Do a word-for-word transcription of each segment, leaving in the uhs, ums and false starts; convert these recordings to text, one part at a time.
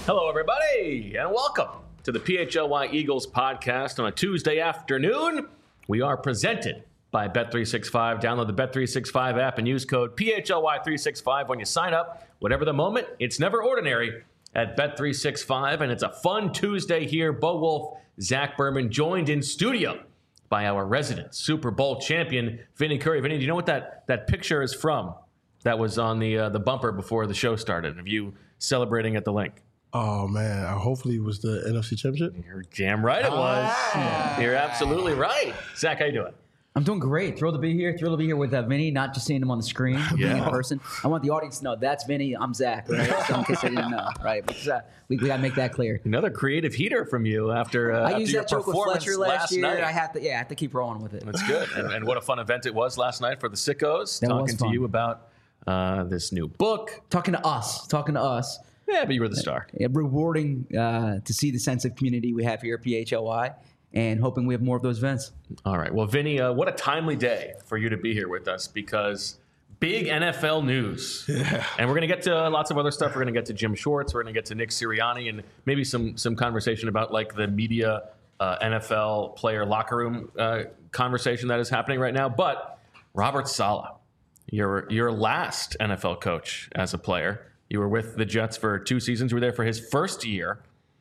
Hello, everybody, and welcome to the P H L Y Eagles podcast on a Tuesday afternoon. We are presented by Bet three sixty-five. Download the Bet three sixty-five app and use code P H L Y three sixty-five when you sign up. Whatever the moment, it's never ordinary at Bet three sixty-five, and it's a fun Tuesday here. Bo Wolf, Zach Berman, joined in studio by our resident Super Bowl champion, Vinny Curry. Vinny, do you know what that, that picture is from that was on the uh, the bumper before the show started of you celebrating at the link? Oh, man. Uh, hopefully it was the N F C Championship. You're damn right it was. Ah. You're absolutely right. Zach, how you doing? I'm doing great. Thrilled to be here. Thrilled to be here with uh, Vinny, not just seeing him on the screen, being in person. I want the audience to know that's Vinny, I'm Zach, right? So in case they didn't know, right? Because, uh, we we got to make that clear. Another creative heater from you after, uh, I after used your that joke with performance Fletcher last, last year. night. I have to, yeah, I have to keep rolling with it. That's good. And, and what a fun event it was last night for the sickos. That talking was to fun. you about uh, this new book. Talking to us, talking to us. Yeah, but you were the star. Yeah, rewarding uh, to see the sense of community we have here at P H L Y, and hoping we have more of those events. All right. Well, Vinny, uh, what a timely day for you to be here with us because big N F L news. Yeah. And we're going to get to lots of other stuff. We're going to get to Jim Schwartz. We're going to get to Nick Sirianni and maybe some some conversation about like the media uh, N F L player locker room uh, conversation that is happening right now. But Robert Saleh, your your last N F L coach as a player. You were with the Jets for two seasons. You were there for his first year.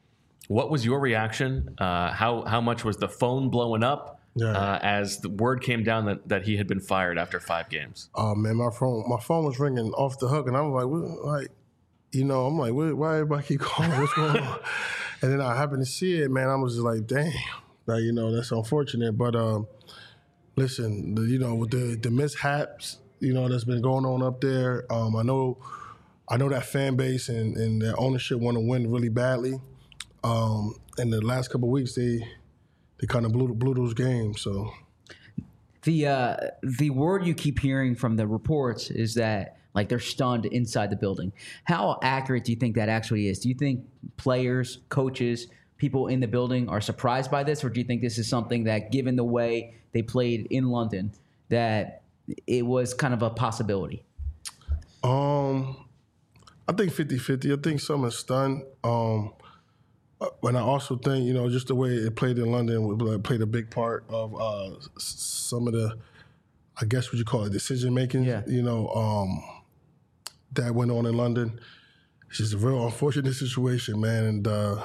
What was your reaction? Uh, how how much was the phone blowing up Yeah. uh, as the word came down that, that he had been fired after five games? Oh, man, my phone my phone was ringing off the hook, and I'm like, what, like, you know, I'm like, what, why everybody keep calling? What's going on? And then I happened to see it, man. I was just like, damn. Like, you know, that's unfortunate. But um, listen, the, you know, with the, the mishaps, you know, that's been going on up there, um, I know I know that fan base and, and their ownership want to win really badly. Um, and the last couple of weeks, they they kind of blew blew those games. So The uh, the word you keep hearing from the reports is that like they're stunned inside the building. How accurate do you think that actually is? Do you think players, coaches, people in the building are surprised by this, or do you think this is something that, given the way they played in London, that it was kind of a possibility? Um, I think fifty-fifty. I think some are stunned. Um, and I also think, you know, just the way it played in London played a big part of uh, some of the, I guess what you call it, decision making, Yeah. you know, um, that went on in London. It's just a real unfortunate situation, man. And uh,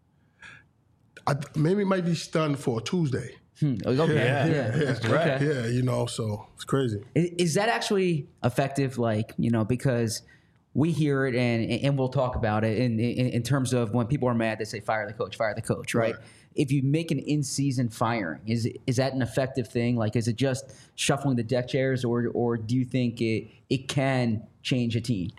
I, maybe it might be stunned for a Tuesday. Hmm. Okay. Yeah. Yeah. That's right. Okay. Yeah, you know, so it's crazy. Is, is that actually effective? Like, you know, because we hear it and and we'll talk about it in, in, in terms of when people are mad, they say, fire the coach, fire the coach, right? Right. If you make an in-season firing, is is that an effective thing? Like, is it just shuffling the deck chairs, or or do you think it it can change a team?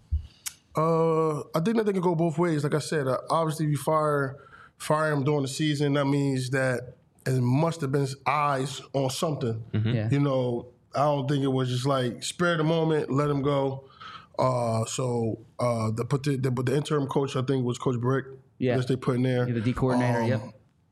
Uh, I think that they can go both ways. Like I said, uh, obviously, if you fire fire him during the season, that means that it must have been eyes on something. Yeah. You know, I don't think it was just like spare the moment, let him go. Uh, so uh, the put the, the but the interim coach, I think, was Coach Brick. Yeah. That they put in there. You're the D coordinator. Um, Yep.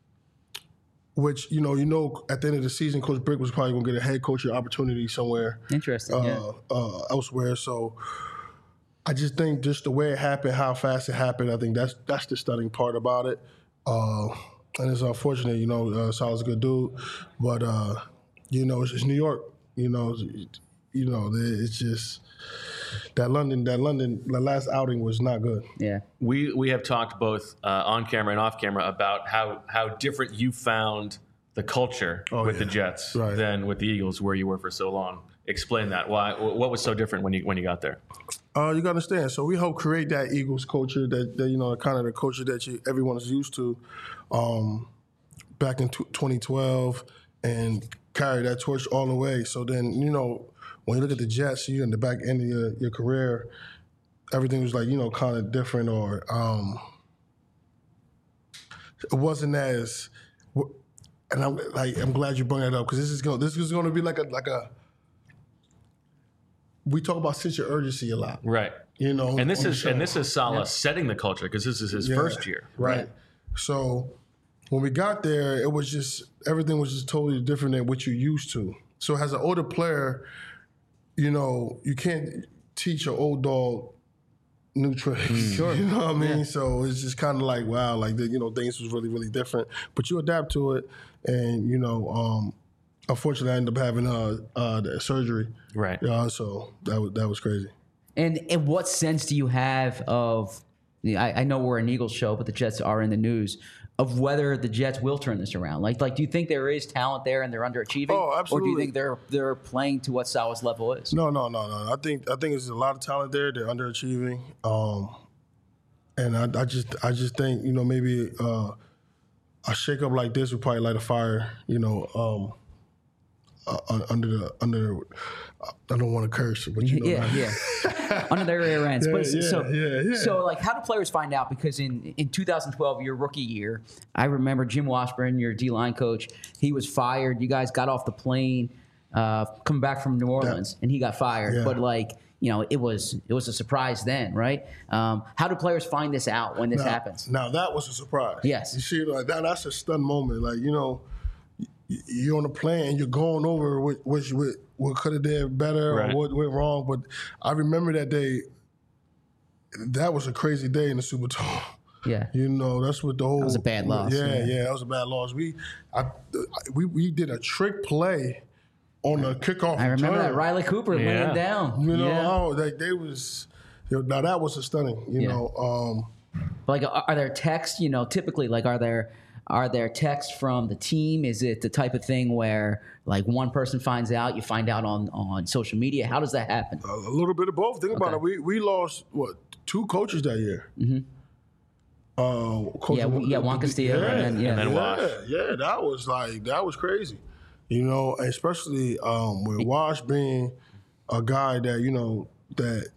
Which you know, you know, at the end of the season, Coach Brick was probably going to get a head coaching opportunity somewhere. Interesting. uh, yeah. uh, elsewhere. So I just think just the way it happened, how fast it happened, I think that's that's the stunning part about it. Uh, and it's unfortunate, you know, uh, Saleh's a good dude, but uh, you know, it's, it's New York. You know, it's, you know, it's just that London, that London, the last outing was not good. Yeah. We we have talked both uh, on camera and off camera about how how different you found the culture Oh, with yeah. the Jets Right. than with the Eagles, where you were for so long. Explain that. Why? What was so different when you when you got there? Uh, you got to understand. So we helped create that Eagles culture, that, that you know, kind of the culture that you, everyone is used to, um, back in t- twenty twelve, and carry that torch all the way. So then, you know, when you look at the Jets, you're in the back end of your, your career, everything was like, you know, kind of different, or um, it wasn't as. And I'm like, I'm glad you brought that up, because this is going this is going to be like a like a. We talk about sense of urgency a lot, Right. you know. And this on the is show. and this is Saleh setting the culture because this is his Yeah, first year. right? So when we got there, it was just everything was just totally different than what you're used to. So as an older player, you know, you can't teach an old dog new tricks. Mm. Sure. You know what I mean? Yeah. So it's just kind of like, wow, like, the, you know, things was really, really different. But you adapt to it. And, you know, um, unfortunately, I ended up having uh, uh, the surgery. Right. Uh, so that was, that was crazy. And in what sense do you have of, I, I know we're an Eagles show, but the Jets are in the news, of whether the Jets will turn this around? Like, like, do you think there is talent there and they're underachieving? Oh, absolutely. Or do you think they're they're playing to what Salah's level is? No, no, no, no. I think I think there's a lot of talent there. They're underachieving. Um, and I, I just I just think, you know, maybe uh, a shakeup like this would probably light a fire, you know, um, uh, under the under. I don't want to curse, but you know, yeah, yeah, under their rear ends. Yeah, but yeah, so, yeah, yeah. so, like, how do players find out? Because in in two thousand twelve, your rookie year, I remember Jim Washburn, your D line coach. He was fired. You guys got off the plane, uh, coming back from New Orleans, and he got fired. Yeah. But like, you know, it was it was a surprise then, right? Um, how do players find this out when this now, happens? Now that was a surprise. Yes. You see, like that, that's a stun moment. Like, you know, you're on the plane, you're going over what what, what, what could have did better Right. or what went wrong. But I remember that day. That was a crazy day in the Superdome. Yeah. You know, that's what the whole. That was a bad loss, Yeah, yeah. yeah, that was a bad loss. We, I, we, we did a trick play on the kickoff. I remember return. that Riley Cooper Yeah. laying down. You know, yeah. oh, they, they was. You know, now that was a stunning. You Yeah. know, um, Like, are are there texts? You know, typically, like, are there are there texts from the team? Is it the type of thing where, like, one person finds out, you find out on, on social media? How does that happen? a little bit of both. Think about Okay. it. We we lost what two coaches that year. Mm-hmm. Uh, Coach- Yeah, yeah, Juan Castillo and then- yeah. And then yeah, Wash. yeah, that was like that was crazy. You know, especially um, with Wash being a guy that you know that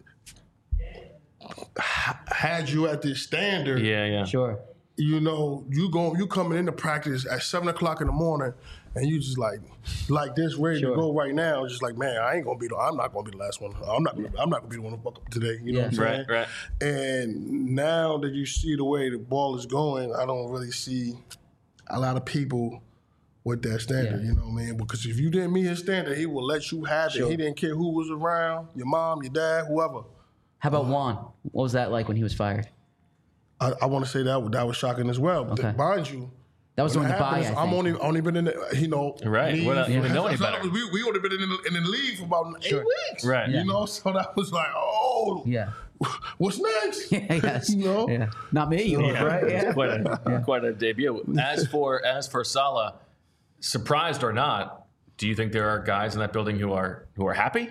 h- had you at this standard. Yeah, yeah. Sure. You know, you go, you coming into practice at seven o'clock in the morning, and you just like, like this, ready Sure. to go right now. Just like, man, I ain't gonna be the, I'm not gonna be the last one. I'm not, gonna, I'm not gonna be the one to fuck up today. You know Yeah. what I'm saying? Right, right. And now that you see the way the ball is going, I don't really see a lot of people with that standard. Yeah. You know what I mean? Because if you didn't meet his standard, he will let you have Sure. it. He didn't care who was around, your mom, your dad, whoever. How about Juan? What was that like when he was fired? I, I want to say that that was shocking as well. But Okay. mind you. That was When during it the bye, I happens, think. I'm only only been in the you know Right. league. What else- you didn't know any So better. We we only been in the, in the league for about eight Sure. weeks. Right. You Yeah. know, so that was like, oh, Yeah. what's next? yes. You know. Yeah. Not me, right? It's Yeah. quite a quite a debut. As for as for Salah, surprised or not, do you think there are guys in that building who are who are happy?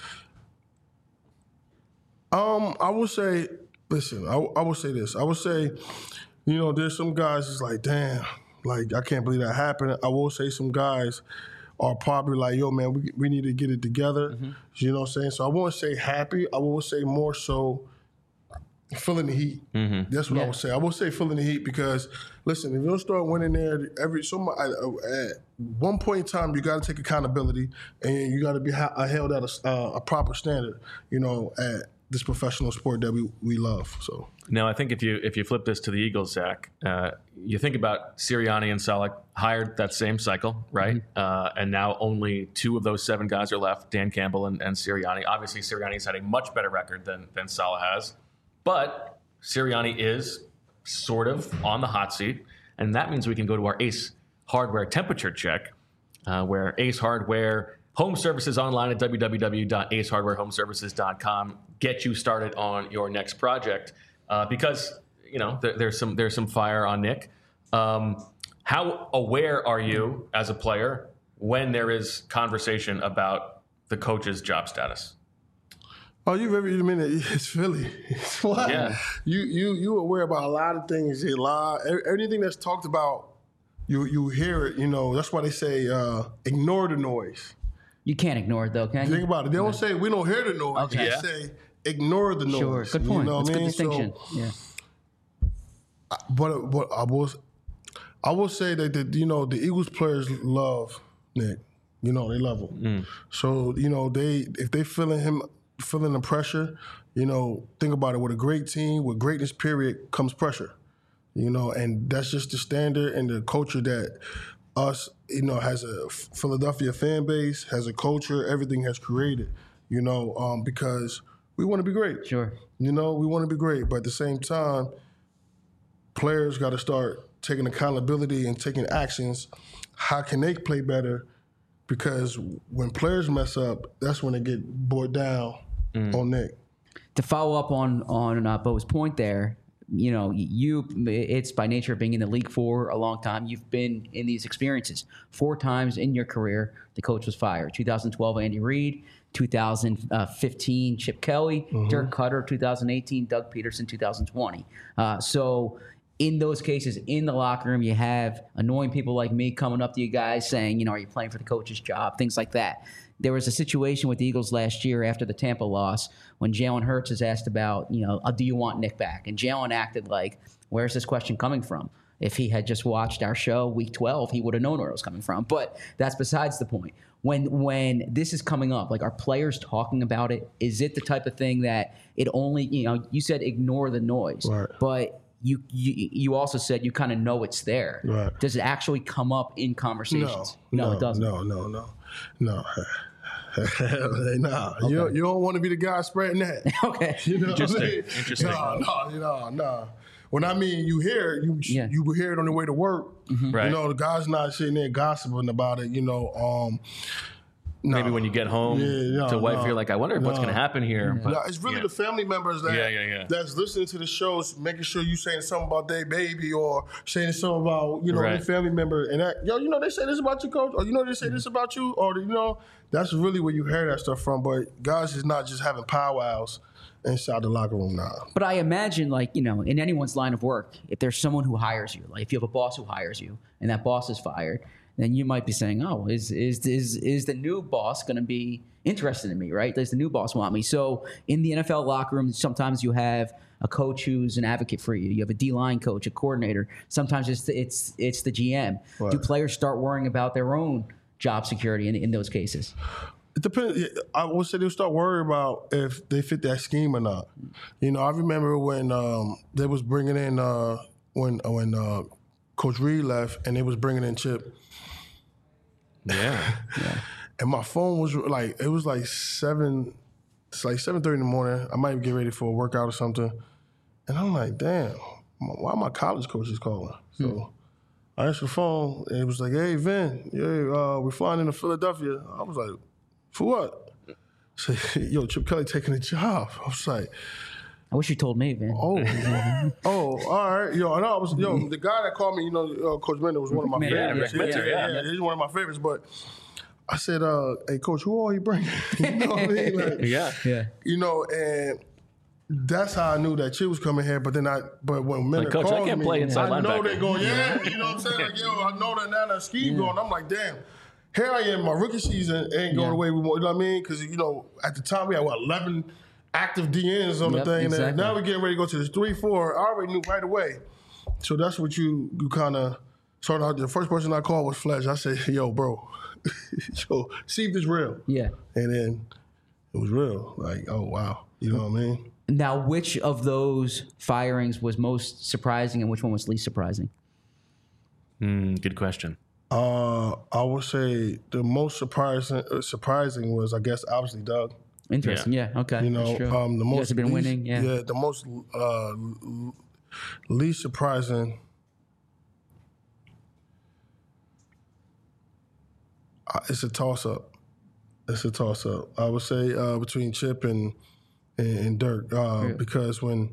Um, I would say, listen, I, I would say this. I would say, you know, there's some guys that's like, damn, like I can't believe that happened. I will say some guys are probably like, yo, man, we we need to get it together. Mm-hmm. You know what I'm saying? So I won't say happy. I will say more so feeling the heat. That's what I Yeah. would say. I will say feeling the heat because, listen, if you don't start winning there, every so much, at one point in time, you got to take accountability and you got to be ha- held at a, uh, a proper standard, you know, at this professional sport that we, we love. So Now, I think if you if you flip this to the Eagles, Zach, uh, you think about Sirianni and Saleh hired that same cycle, right? Uh, and now only two of those seven guys are left: Dan Campbell and, and Sirianni. Obviously, Sirianni's had a much better record than than Saleh has, but Sirianni is sort of on the hot seat, and that means we can go to our Ace Hardware temperature check, uh, where Ace Hardware Home Services online at w w w dot ace hardware home services dot com get you started on your next project. Uh, because you know there, there's some there's some fire on Nick. Um, how aware are you as a player when there is conversation about the coach's job status? Oh, you very I mean it's Philly. It's what? Yeah. You you you aware about a lot of things. A lot anything that's talked about, you you hear it. You know that's why they say uh, ignore the noise. You can't ignore it, though, can you? Think about it. They don't say we don't hear the noise. Okay. They Yeah. say ignore the noise. Sure. Good point. You know That's what a I good mean? distinction. So, yeah. but but I will I will say that the, you know the Eagles players love Nick. You know they love him. So you know they if they feeling him feeling the pressure, you know think about it. With a great team, with greatness, period, comes pressure. You know, and that's just the standard and the culture that us, you know, has a Philadelphia fan base, has a culture, everything has created. You know, um, because we want to be great. Sure. You know, we want to be great, but at the same time, players got to start taking accountability and taking actions. How can they play better? Because when players mess up, that's when they get bored down mm. on Nick. To follow up on on uh, Bo's point there, you know, you it's by nature of being in the league for a long time. You've been in these experiences four times in your career. The coach was fired. twenty twelve, Andy Reid. two thousand fifteen, Chip Kelly. Mm-hmm. Dirk Cutter. two thousand eighteen, Doug Peterson. two thousand twenty. Uh, so. In those cases, in the locker room, you have annoying people like me coming up to you guys saying, you know, are you playing for the coach's job? Things like that. There was a situation with the Eagles last year after the Tampa loss when Jalen Hurts is asked about, you know, do you want Nick back? And Jalen acted like, where's this question coming from? If he had just watched our show week twelve, he would have known where it was coming from. But that's besides the point. When when this is coming up, like, are players talking about it? Is it the type of thing that it only, you know, you said ignore the noise, right. but You, you you also said you kind of know it's there. Right. Does it actually come up in conversations? No, no, no it doesn't. No, no, no, no. nah, okay. you don't, you don't want to be the guy spreading that. Okay. You know Interesting. What I mean? Interesting. No, no, no, no. When I mean you hear it, you yeah. you hear it on the way to work. Mm-hmm. Right. You know, the guy's not sitting there gossiping about it. You know, um, no. Maybe when you get home yeah, no, to wife, no, you're like, I wonder no. what's going to happen here. Yeah. But, no, it's really yeah. the family members that yeah, yeah, yeah. that's listening to the shows, making sure you saying something about their baby or saying something about, you know, right. your family member. And that, yo, you know, they say this about you, coach, or you know, they say mm-hmm. this about you, or, you know, that's really where you hear that stuff from. But guys is not just having powwows inside the locker room now. But I imagine, like, you know, in anyone's line of work, if there's someone who hires you, like if you have a boss who hires you and that boss is fired, then you might be saying, oh, is is is is the new boss going to be interested in me, right? Does the new boss want me? So in the N F L locker room, sometimes you have a coach who's an advocate for you. You have a D-line coach, a coordinator. Sometimes it's the, it's it's the G M. Right. Do players start worrying about their own job security in, in those cases? It depends. I would say they'll start worrying about if they fit that scheme or not. You know, I remember when um, they was bringing in uh, when when uh, Coach Reid left and they was bringing in Chip. Yeah. yeah. And my phone was like, it was like seven, it's like seven thirty in the morning. I might get ready for a workout or something. And I'm like, damn, why my college coaches calling? So hmm. I answered the phone and it was like, hey, Vin, yeah, uh, we're flying into Philadelphia. I was like, for what? I said, yo, Chip Kelly taking a job. I was like, I wish you told me, man. Oh, oh, all right. Yo, I know I was, yo, the guy that called me, you know, uh, Coach Mender was one of my yeah, favorites. Yeah, yeah, yeah, yeah, he's one of my favorites. But I said, uh, hey, Coach, who are you bringing? You know what I mean? Like, yeah. Yeah. You know, and that's how I knew that Chip was coming here. But then I, but when Mender like, Coach, called I can't me, play inside I know linebacker. they're going, yeah. You know what I'm saying? Like, yo, I know that now that scheme yeah. going. I'm like, damn. Here I am, my rookie season ain't going yeah. the way we want. You know what I mean? Because, you know, at the time we had, what, eleven active D Ns on yep, the thing. Exactly. And now we're getting ready to go to this three, four. I already knew right away. So that's what you you kind of started out. The first person I called was Fletch. I said, yo, bro, yo, see if it's real. Yeah. And then it was real. Like, oh, wow. You know what I mean? Now, which of those firings was most surprising and which one was least surprising? Mm, good question. Uh, I would say the most surprising uh, surprising was, I guess, obviously Doug. Interesting. Yeah. yeah okay. You know, That's true. um, the you most guys have been least, winning. Yeah. Yeah. The most uh, least surprising. Uh, it's a toss up. It's a toss up. I would say uh, between Chip and and, and Dirk uh, yeah. because when.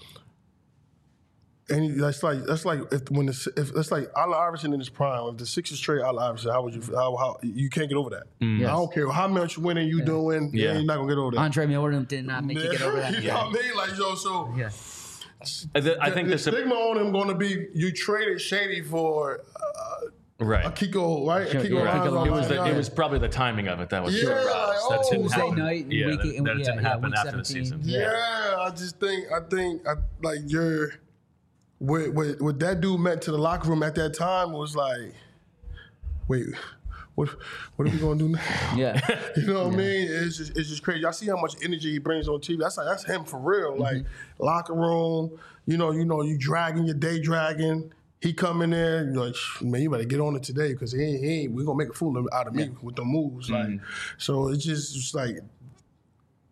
And that's like that's like if when the, if that's like Allen Iverson in his prime. If the Sixers trade Allen Iverson, how would you how, how you can't get over that? Mm. Yes. I don't care how much winning you yeah. doing, yeah. you're not gonna get over that. Andre Miller did not make yeah. you get over that. You yeah. know what I mean? Like yo, so yeah. I, th- I the, think the the stigma on him going to be you traded Shady for uh, right a Kiko, right? Sure, a Kiko yeah. Line, it was the, line. it was probably the timing of it that was yeah, sure. Like, that oh, didn't Tuesday happen. night, yeah, week, that, that yeah, didn't yeah, happen after seventeen. the season. Yeah. yeah, I just think I think I, like you're. What, what, what that dude meant to the locker room at that time was like, wait, what what are we gonna do now? Yeah, you know what yeah. I mean? It's just it's just crazy. I see how much energy he brings on T V. That's like that's him for real. Mm-hmm. Like locker room, you know, you know, you dragging your day dragging. He come in there, you're like, man, you better get on it today because he ain't, he ain't, we gonna make a fool out of me yeah. with the moves. Mm-hmm. Like, so it's just it's like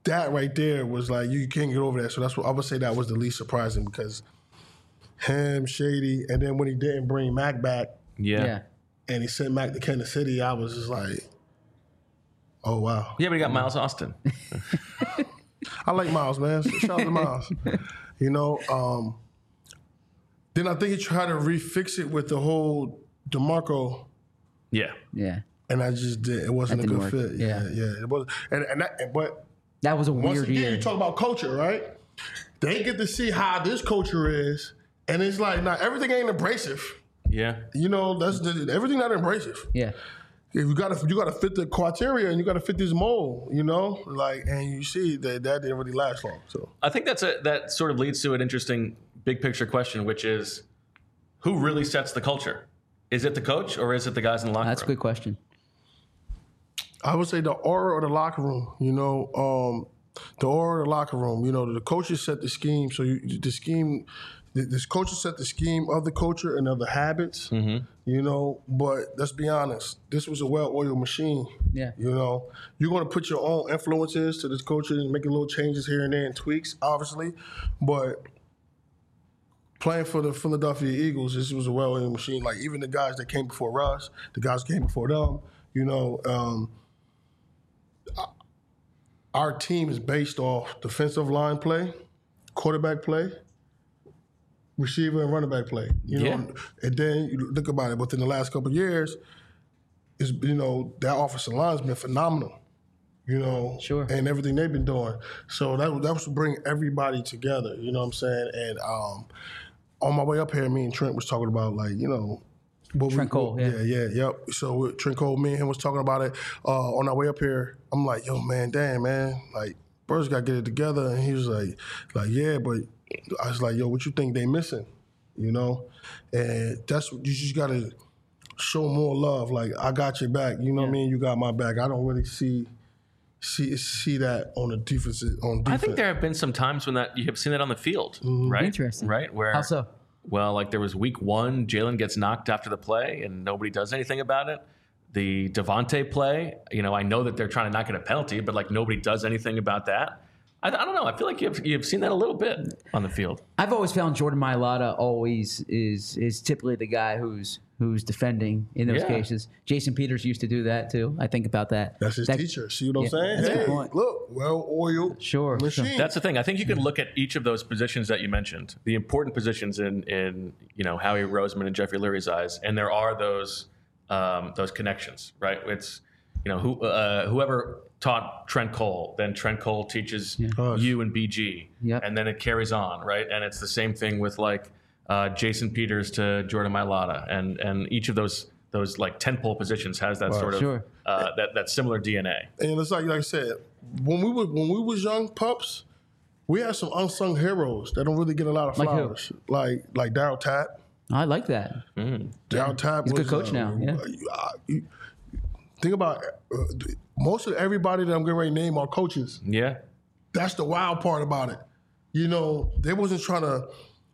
that right there was like, you can't get over that. So that's what I would say that was the least surprising because him, Shady, and then when he didn't bring Mac back Yeah. Yeah. and he sent Mac to Kansas City, I was just like, oh, wow. Yeah, but he got Miles Austin. I like Miles, man. Shout out to Miles. You know, um, then I think he tried to refix it with the whole DeMarco, Yeah. Yeah. and I just did. It wasn't a That good didn't fit. work. Yeah, Yeah. yeah. It was, and and that, but That was a once weird again, year. you talk about culture, right? They get to see how this culture is, and it's like, not everything ain't abrasive. Yeah. You know, that's the, everything not abrasive. Yeah. If you gotta you gotta fit the criteria and you gotta fit this mold, you know, like, and you see that that didn't really last long. So I think that's a that sort of leads to an interesting big picture question, which is who really sets the culture? Is it the coach or is it the guys in the locker That's a room? good question. I would say the aura of the locker room, you know, um, the aura of the locker room. You know, the coaches set the scheme. So you, the scheme, the, this coaches set the scheme of the culture and of the habits. Mm-hmm. You know, but let's be honest, this was a well-oiled machine. Yeah. You know, you're going to put your own influences to this culture and make little changes here and there and tweaks, obviously, but playing for the Philadelphia Eagles, this was a well-oiled machine. Like, even the guys that came before us, the guys that came before them, you know, um, our team is based off defensive line play, quarterback play, receiver and running back play. You Yeah. know, and then you look about it. Within the last couple of years, is you know that offensive line's been phenomenal. You know, Sure. and everything they've been doing. So that that was to bring everybody together. You know what I'm saying? And um, on my way up here, me and Trent was talking about like you know. What Trent we, Cole, yeah. yeah, yeah, yep. So with Trent Cole, me and him was talking about it uh, on our way up here. I'm like, yo, man, damn, man, like, Birds got to get it together. And he was like, like, yeah, but I was like, yo, what you think they missing? You know, and that's what you just got to show more love. Like, I got your back. You know what I mean? You got my back. I don't really see see see that on the defense. On defense. I think there have been some times when that you have seen that on the field, right? Interesting. Right? Where How so? Well, like there was week one, Jalen gets knocked after the play and nobody does anything about it. The Devontae play, you know, I know that they're trying to not get a penalty, but like nobody does anything about that. I, I don't know. I feel like you've you've seen that a little bit on the field. I've always found Jordan Mailata always is is typically the guy who's who's defending in those Yeah. cases. Jason Peters used to do that too. I think about that. That's his That- teacher. See what I'm Yeah, saying? that's a good Hey, point. look, well-oiled Sure, machine. sure. That's the thing. I think you can look at each of those positions that you mentioned, the important positions in in you know Howie Roseman and Jeffrey Lurie's eyes, and there are those um, those connections, right? It's you know who uh, whoever taught Trent Cole, then Trent Cole teaches Us. you and B G, Yep. and then it carries on, right? And it's the same thing with like uh, Jason Peters to Jordan Mailata, and and each of those those like tentpole positions has that sort of Sure. uh, that that similar D N A. And it's like like I said, when we were when we was young pups, we had some unsung heroes that don't really get a lot of Like who? flowers. Like like Darryl Tapp. I like that. Darryl Tapp He's a was good coach uh, now, yeah. uh, you- think about uh, most of everybody that I'm getting ready to name are coaches. Yeah. That's the wild part about it. You know, they wasn't trying to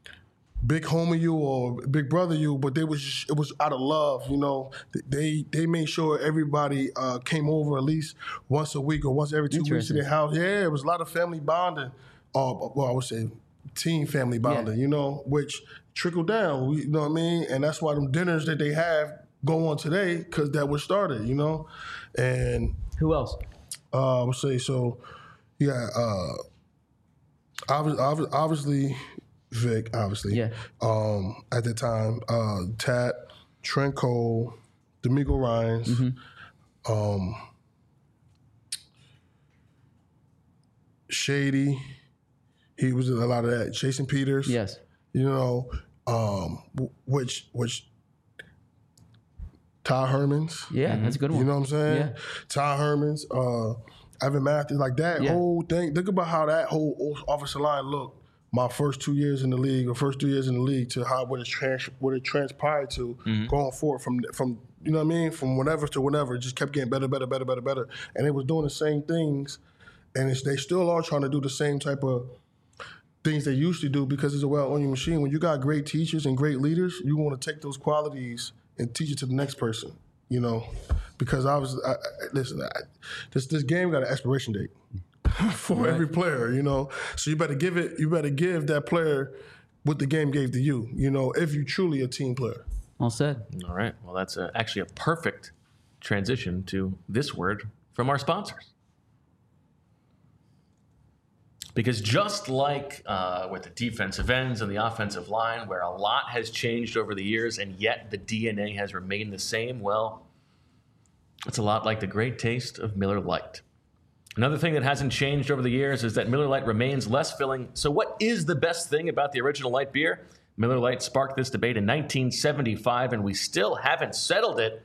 big homie you or big brother you, but they was it was out of love. You know, they they made sure everybody uh, came over at least once a week or once every two weeks to Interesting. their house. Yeah, it was a lot of family bonding. Uh, well, I would say team family bonding. You know, which trickled down. We, you know what I mean? And that's why them dinners that they have go on today because that was started. You know, and Who else? uh, I would say so. Yeah, uh, obviously, obviously, Vic, obviously. Yeah. Um, at the time, uh, Tat, Trent Cole, D'Amico Ryans, Mm-hmm. um, Shady. He was in a lot of that. Jason Peters. Yes. You know, um, w- which which Ty Hermans. Yeah, that's a good one. You know what I'm saying? Yeah. Ty Hermans, uh, Evan Matthews, like that Yeah. whole thing. Think about how that whole offensive line looked my first two years in the league, or first two years in the league, to how what it trans what it transpired to going forward from from you know what I mean, from whatever to whatever. It just kept getting better, better, better, better, better, and it was doing the same things, and it's, they still are trying to do the same type of things they used to do because it's a well-oiled machine. When you got great teachers and great leaders, you want to take those qualities and teach it to the next person, you know, because I was, I, I, listen, I, this this game got an expiration date. for Right. every player, you know. So you better give it. You better give that player what the game gave to you, you know, if you truly a team player. Well said. All right. Well, that's a, actually a perfect transition to this word from our sponsors. Because just like uh, with the defensive ends and the offensive line, where a lot has changed over the years and yet the D N A has remained the same, well, it's a lot like the great taste of Miller Lite. Another thing that hasn't changed over the years is that Miller Lite remains less filling. So what is the best thing about the original light beer? Miller Lite sparked this debate in nineteen seventy-five, and we still haven't settled it.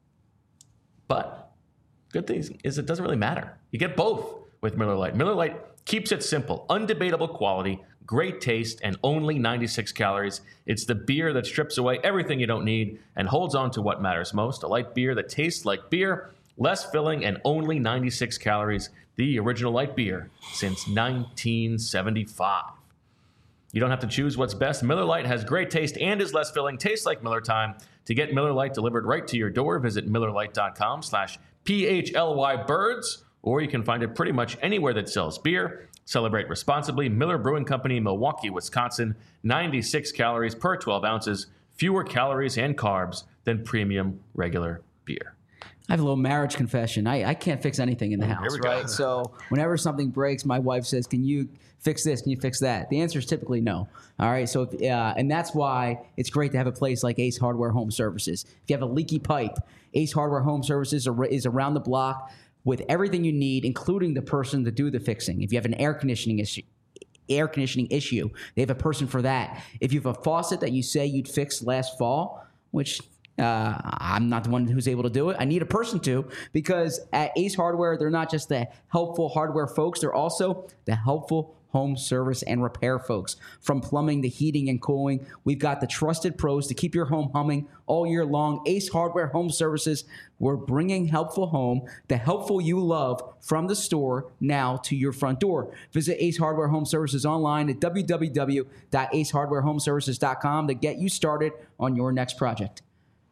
But good thing is it doesn't really matter. You get both with Miller Lite. Miller Lite keeps it simple, undebatable quality, great taste, and only ninety-six calories. It's the beer that strips away everything you don't need and holds on to what matters most. A light beer that tastes like beer, less filling, and only ninety-six calories. The original light beer since nineteen seventy-five. You don't have to choose what's best. Miller Lite has great taste and is less filling. Tastes like Miller time. To get Miller Lite delivered right to your door, visit MillerLite.com slash PHLY birds, or you can find it pretty much anywhere that sells beer. Celebrate responsibly. Miller Brewing Company, Milwaukee, Wisconsin. ninety-six calories per twelve ounces. Fewer calories and carbs than premium regular beer. I have a little marriage confession. I, I can't fix anything in the house, we go. right? So whenever something breaks, my wife says, can you fix this? Can you fix that? The answer is typically no. All right. So, if, uh, and that's why it's great to have a place like Ace Hardware Home Services. If you have a leaky pipe, Ace Hardware Home Services are, is around the block with everything you need, including the person to do the fixing. If you have an air conditioning issue, air conditioning issue, they have a person for that. If you have a faucet that you say you'd fix last fall, which Uh, I'm not the one who's able to do it. I need a person to, because at Ace Hardware, they're not just the helpful hardware folks. They're also the helpful home service and repair folks. From plumbing to heating and cooling, we've got the trusted pros to keep your home humming all year long. Ace Hardware Home Services, we're bringing helpful home, the helpful you love, from the store now to your front door. Visit Ace Hardware Home Services online at w w w dot ace hardware home services dot com to get you started on your next project.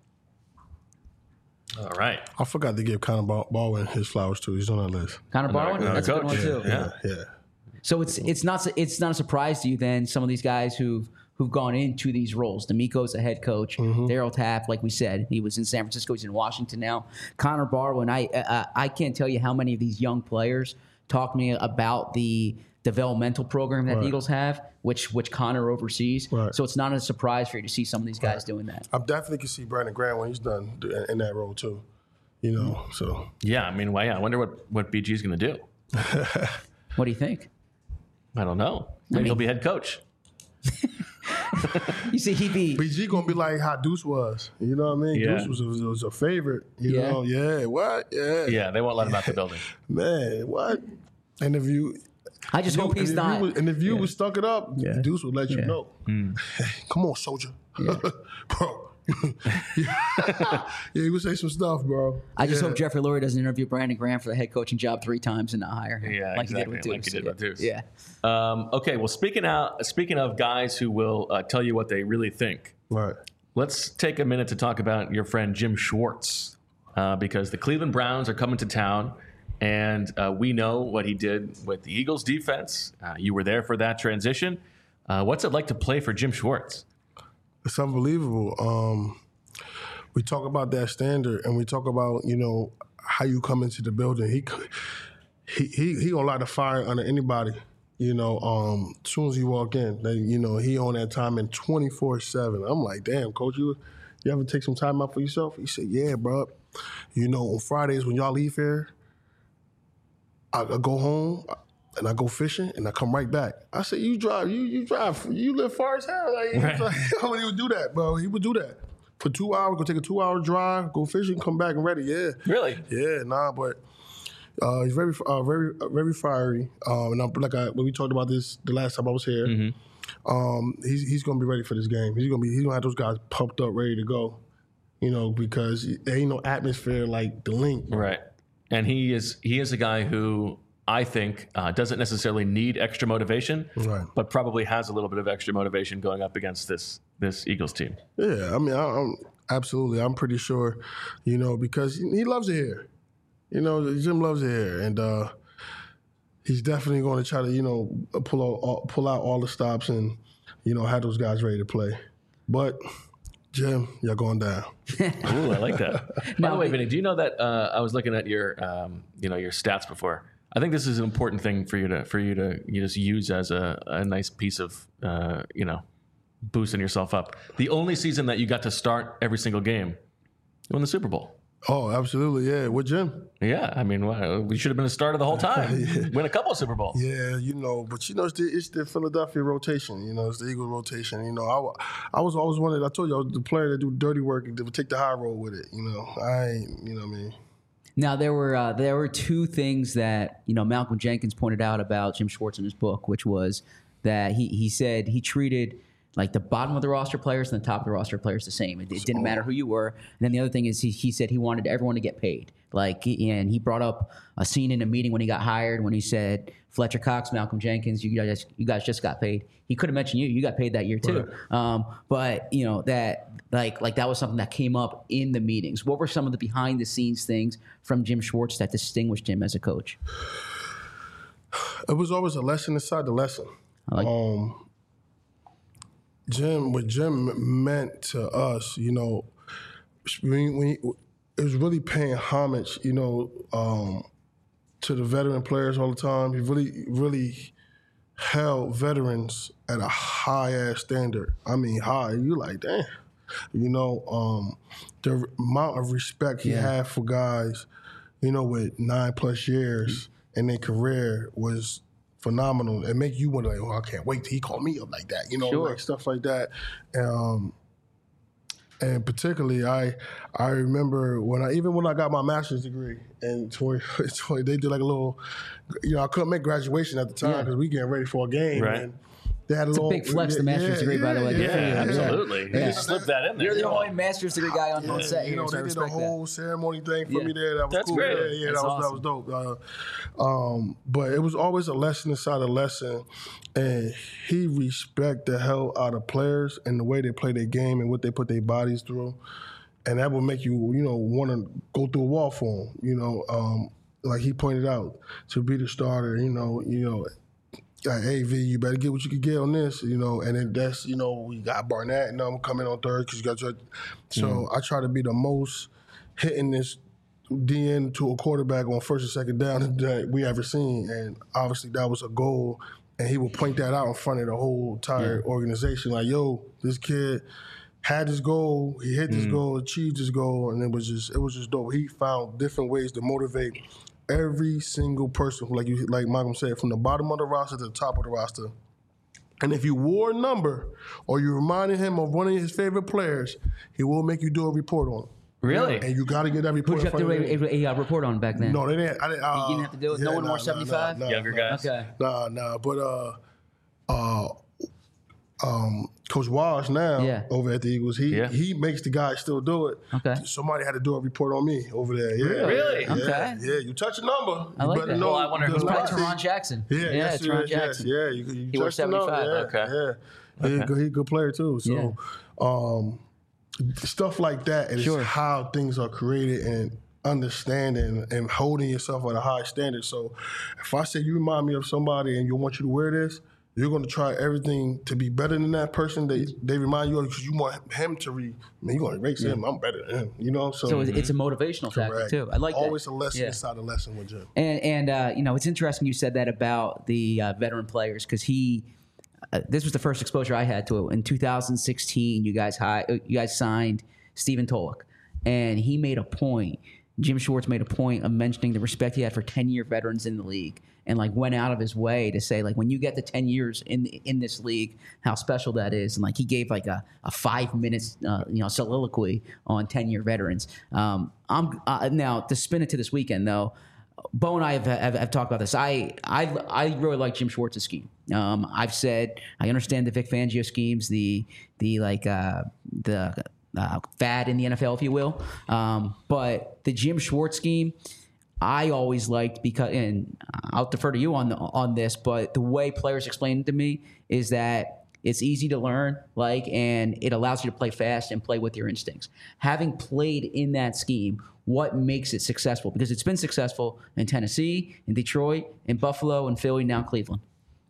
All right. I forgot to give Connor Bal- Baldwin his flowers too. He's on that list. Connor Barwin, Another that's a good one coach. too. Yeah. Yeah. So it's it's not it's not a surprise to you then, some of these guys who've who've gone into these roles. D'Amico's a head coach. Mm-hmm. Daryl Taft, like we said, he was in San Francisco. He's in Washington now. Connor Barwin, I uh, I can't tell you how many of these young players talk to me about the developmental program that Right. the Eagles have, which which Connor oversees. Right. So it's not a surprise for you to see some of these guys doing that. I definitely can see Brandon Graham when he's done in- in that role too. You know, so Yeah, I mean, well, yeah, I wonder what, what B G's going to do. What do you think? I don't know. Maybe mean- he'll be head coach. You see, he'd be B G gonna be like how Deuce was. You know what I mean? Yeah. Deuce was a, was a favorite. You Yeah. know? Yeah. What? Yeah. Yeah, they won't let him out the building. Man, what? And if you, I just hope and he's if not. You was, and if you Yeah. was stuck it up, Yeah. Deuce would let you Yeah. know. Hey, come on, soldier, bro. Yeah, he would say some stuff, bro. I just yeah. hope Jeffrey Lurie doesn't interview Brandon Graham for the head coaching job three times and not hire him. Yeah, like exactly, he did with like Deuce. he did with Deuce. Yeah. Um, okay, well, speaking out, speaking of guys who will uh, tell you what they really think, Right. let's take a minute to talk about your friend Jim Schwartz, uh, because the Cleveland Browns are coming to town, and uh, we know what he did with the Eagles defense. Uh, you were there for that transition. Uh, what's it like to play for Jim Schwartz? It's unbelievable. Um, we talk about that standard, and we talk about, you know, how you come into the building. He he he, he gonna light the fire under anybody. You know, um, as soon as you walk in, they, you know, he on that time in twenty-four seven. I'm like, damn, coach, you you ever take some time out for yourself? He said, yeah, bro. You know, on Fridays when y'all leave here, I, I go home and I go fishing and I come right back. I said, you drive, you you drive, you live far as hell. Like, he was like, how he would do that, bro? He would do that for two hours. Go take a two hour drive, go fishing, come back and ready. Yeah, Really? yeah, nah, but. Uh, he's very, uh, very, uh, very fiery. Um, and I'm, like I, when we talked about this the last time I was here, Mm-hmm. um, he's he's gonna be ready for this game. He's gonna be he's gonna have those guys pumped up, ready to go. You know, because there ain't no atmosphere like the link. Right. And he is he is a guy who I think uh, doesn't necessarily need extra motivation, Right. but probably has a little bit of extra motivation going up against this this Eagles team. Yeah, I mean, I, I'm absolutely. I'm pretty sure, you know, because he loves it here. You know, Jim loves it here, and uh, he's definitely going to try to, you know, pull out all, pull out all the stops and, you know, have those guys ready to play. But Jim, you're going down. Ooh, I like that. By the way, Vinny, do you know that uh, I was looking at your, um, you know, your stats before? I think this is an important thing for you to for you to you just use as a, a nice piece of, uh, you know, boosting yourself up. The only season that you got to start every single game, you won the Super Bowl. Oh, absolutely, yeah. With Jim? Yeah, I mean, well, we should have been a starter the whole time. yeah. Win a couple of Super Bowls. Yeah, you know, but you know, it's the, it's the Philadelphia rotation. You know, it's the Eagles rotation. You know, I, I was always one that I told you I was the player that do dirty work and would take the high road with it. You know, I ain't, you know what I mean. Now there were uh, there were two things that you know Malcolm Jenkins pointed out about Jim Schwartz in his book, which was that he he said he treated like the bottom of the roster players and the top of the roster players the same. It, it didn't matter who you were. And then the other thing is he, he said he wanted everyone to get paid. Like, and he brought up a scene in a meeting when he got hired when he said, Fletcher Cox, Malcolm Jenkins, you guys, you guys just got paid. He could have mentioned you. You got paid that year too. Right. Um, but you know that like like that was something that came up in the meetings. What were some of the behind the scenes things from Jim Schwartz that distinguished him as a coach? It was always a lesson inside the lesson. I like um, Jim, what Jim meant to us, you know, when, when he, it was really paying homage, you know, um, to the veteran players all the time. He really, really held veterans at a high-ass standard. I mean, high. You're like, damn. You know, um, the amount of respect he yeah. had for guys, you know, with nine-plus years in their career was phenomenal. It make you wonder, like, oh, I can't wait till he called me up like that, you know, sure. like stuff like that. Um, and particularly, I I remember when I even when I got my master's degree in twenty twenty, they did like a little, you know, I couldn't make graduation at the time because yeah. we getting ready for a game. Right. And they had a it's little, a big flex, yeah, the master's yeah, degree, yeah, by the way. Yeah, yeah, yeah absolutely. Yeah. You just slip that in there. You're the only master's degree guy on, yeah, on set you here, know, so they I did a respect whole that. ceremony thing for yeah. me there. That was That's cool. great. Yeah, yeah, That's that was awesome. that was dope. Uh, um, but it was always a lesson inside a lesson, and he respect the hell out of players and the way they play their game and what they put their bodies through, and that will make you, you know, want to go through a wall for him. You know, um, like he pointed out, to be the starter. You know, you know. Like, hey, V, you better get what you can get on this, you know, and then that's, you know, we got Barnett and I'm coming on third because you got your. So mm. I try to be the most hitting this D N to a quarterback on first and second down that we ever seen. And obviously that was a goal. And he would point that out in front of the whole entire yeah. organization. Like, yo, this kid had his goal, he hit his mm. goal, achieved his goal, and it was just, it was just dope. He found different ways to motivate every single person, like you, like Malcolm said, from the bottom of the roster to the top of the roster. And if you wore a number or you reminded him of one of his favorite players, he will make you do a report on him. Really? And you got to get that report. Who did you have to do a, a, a report on back then? No, they didn't. I didn't uh, you didn't have to do it? Yeah, no one nah, more nah, seventy-five? Nah, nah, Younger nah, guys? Okay. Nah, nah. But uh, uh, um, Coach Walsh now yeah. over at the Eagles, he yeah. he makes the guys still do it. Okay. Somebody had to do a report on me over there. Yeah. Really? Yeah, okay. Yeah, you touch a number. I like you better that. know. Well, I wonder who's probably Teron Jackson. Yeah, yeah, yes, Teron yes, Jackson. Yes, yeah, you, you he wore seventy-five. Yeah, okay. Yeah. He's okay. he a good player too. So yeah. um, stuff like that is sure. how things are created and understanding and holding yourself at a high standard. So if I say you remind me of somebody and you want you to wear this, you're going to try everything to be better than that person they they remind you of because you want him to re. I mean, you're going to erase yeah. him. I'm better than him. You know, so, so it's a motivational correct. factor too. I like always that. a lesson yeah. inside a lesson with Jim. And and uh, you know, it's interesting you said that about the uh, veteran players because he. Uh, this was the first exposure I had to it. In two thousand sixteen, you guys high, you guys signed Stephen Tulloch, and he made a point. Jim Schwartz made a point of mentioning the respect he had for ten-year veterans in the league, and like went out of his way to say like when you get to ten years in in this league, how special that is. And like he gave like a, a five minutes uh, you know soliloquy on ten-year veterans. Um, I'm uh, now to spin it to this weekend though. Bo and I have, have, have talked about this. I, I I really like Jim Schwartz's scheme. Um, I've said I understand the Vic Fangio schemes, the the like uh, the uh, fad in the N F L, if you will. Um, but the Jim Schwartz scheme, I always liked because, and I'll defer to you on the, on this, but the way players explain it to me is that it's easy to learn, like, and it allows you to play fast and play with your instincts. Having played in that scheme, what makes it successful? Because it's been successful in Tennessee, in Detroit, in Buffalo, in Philly, now Cleveland.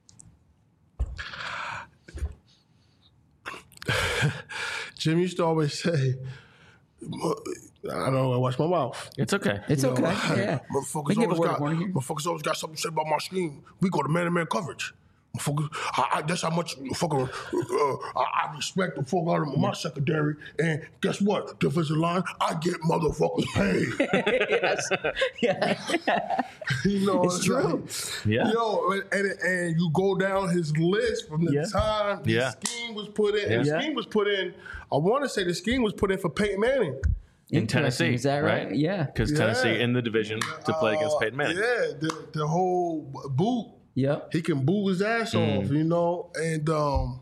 Jim used to always say, I don't know, I watch my mouth. It's okay. It's You know, okay. Yeah. Motherfuckers We can give a always, word got, of warning here. motherfuckers always got something to say about my scheme. We go to man-to-man coverage. Motherfuckers, I, I, that's how much fucking, uh, I, I respect the fuck out of my secondary. And guess what? Defensive line, I get motherfuckers paid. yes. Yeah. You know, It's true. like, Yeah. Yo, and, and, and you go down his list from the Yeah. time the Yeah. scheme was put in. And Yeah. the scheme was put in, I want to say the scheme was put in for Peyton Manning. In Interesting. Tennessee, Is that right? Yeah. Because Yeah. Tennessee in the division to play against Uh, Peyton Manning. Yeah, the, the whole boot. Yep. He can boo his ass Mm. off, you know? And, um,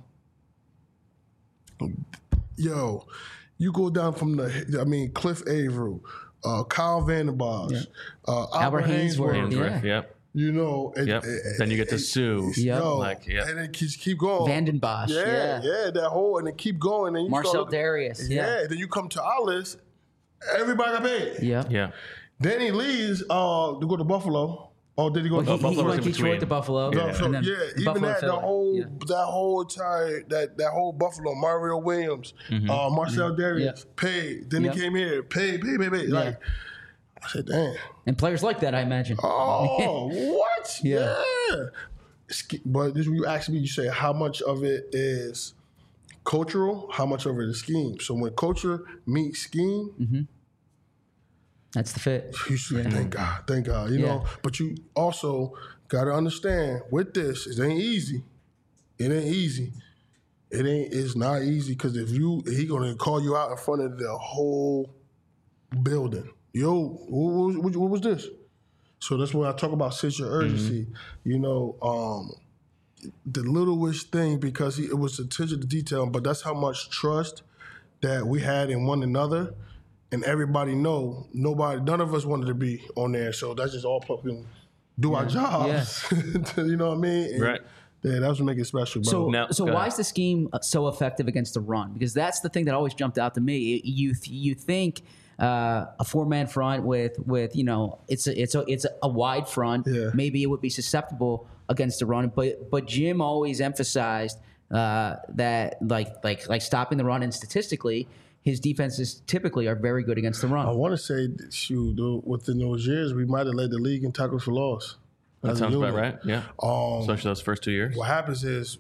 yo, you go down from the, I mean, Cliff Averill, uh, Kyle Vandenbosch, Yeah. uh, Albert Albert Hainsworth, Hainsworth, yeah. Right, Yep. you know? And, Yep. and- Then you get to and- Sue. Yep. Yo, Like, yeah. and then keep, keep going. Vandenbosch. Yeah, Yeah. yeah, that whole, and then keep going. And you Marcel start, Darius. yeah. Yeah. Then you come to our list, everybody got paid. Yeah. Yeah. Then he leaves uh, to go to Buffalo. Or did he go Well, to he, he Buffalo was went in Detroit between. to Buffalo. No, so, and then yeah, even Buffalo, that, the Philly. whole, Yeah. that whole entire, that that whole Buffalo, Mario Williams, uh, Marcel Darius, Yeah. paid. Then Yeah. he came here, paid, paid, paid, paid. Like, I said, damn. And players like that, I imagine. Oh, what? Yeah. Yeah. Sk- But this, when you ask me, you say how much of it is cultural, how much of it is scheme. So when culture meets scheme, That's the fit. you should thank God, thank God, you Yeah. know. But you also got to understand with this, it ain't easy. It ain't easy. It ain't. It's not easy because if you, he gonna call you out in front of the whole building. Yo, what was, what, what was this? So that's when I talk about sense of urgency. You know, um, the littlest thing because he, it was attention to detail, but that's how much trust that we had in one another. And everybody know, nobody, none of us wanted to be on there. So that's just all fucking do our jobs. You know what I mean? And, Right. Yeah, that's what make it special, bro. So, Now- so go why ahead. is the scheme so effective against the run? Because that's the thing that always jumped out to me. You you think uh, a four man front with with you know it's a, it's a it's a wide front. Yeah. Maybe it would be susceptible against the run, but but Jim always emphasized uh, that like like like stopping the run, and statistically, his defenses typically are very good against the I run. want to say, that, shoot, though, within those years, we might have led the league in tackles for loss. That as a sounds about unit. right. Yeah. Um, Especially those first two years. What happens is,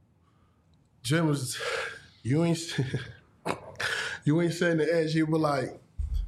Jim was, you ain't, you ain't setting the edge. You were like,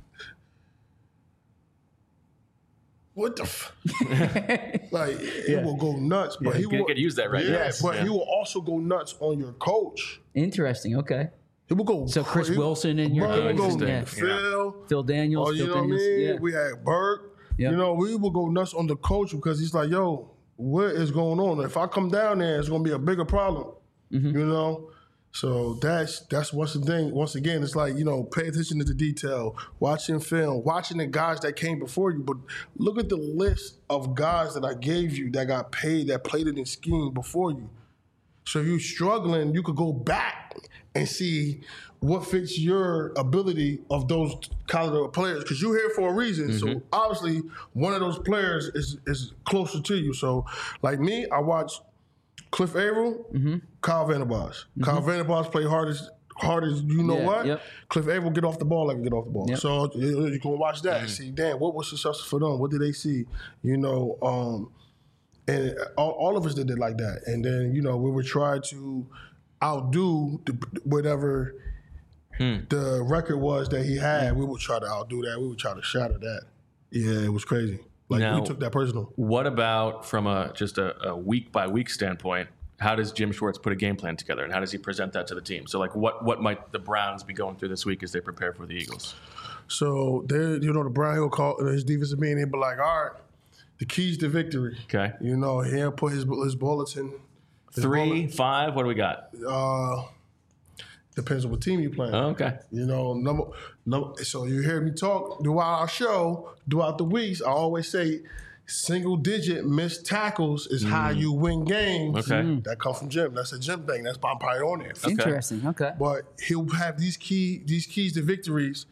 what the, f-? Like it will go nuts. But he You will could use that right Yeah, now. but Yeah. he will also go nuts on your coach. Interesting. Okay. He will go. So Chris he- Wilson in your Bro, he will case, go yeah. Phil. Phil Daniels. Oh, you Phil know what I Daniels. mean? Yeah. We had Burke. Yep. You know, we will go nuts on the coach because he's like, yo, what is going on? If I come down there, it's going to be a bigger problem. Mm-hmm. You know? So that's that's once the thing. Once again, it's like, you know, pay attention to the detail, watching film, watching the guys that came before you. But look at the list of guys that I gave you that got paid, that played it in scheme before you. So if you're struggling, you could go back and see what fits your ability of those caliber players. Because you're here for a reason. So obviously, one of those players is is closer to you. So like me, I watch Cliff Averill, Kyle Vandenbosch. Kyle Vandenbosch play hard as hard as you know Yeah, what. yep. Cliff Averill get off the ball like he get off the ball. Yep. So you, you can watch that and see, damn, what was successful for them? What did they see? You know, um, and all, all of us did it like that. And then, you know, we would try to outdo the, whatever the record was that he had. We would try to outdo that. We would try to shatter that. Yeah, it was crazy. Like, Now- we took that personal. What about from a just a, a week by week standpoint? How does Jim Schwartz put a game plan together, and how does he present that to the team? So, like, what what might the Browns be going through this week as they prepare for the Eagles? So, there, you know, the Brown Hill call his defensive being in, but like, all right, the keys to victory. Okay, You know, he'll put his his bulletin. His three, five. What do we got? bullet- uh, depends on what team you're playing. Oh, okay, You know, number, number, so you hear me talk throughout our show, throughout the weeks. I always say, single digit missed tackles is how you win games. Okay. That come from Jim. That's a Jim thing. That's why I'm probably on there. Interesting. Okay. But he'll have these key these keys to victories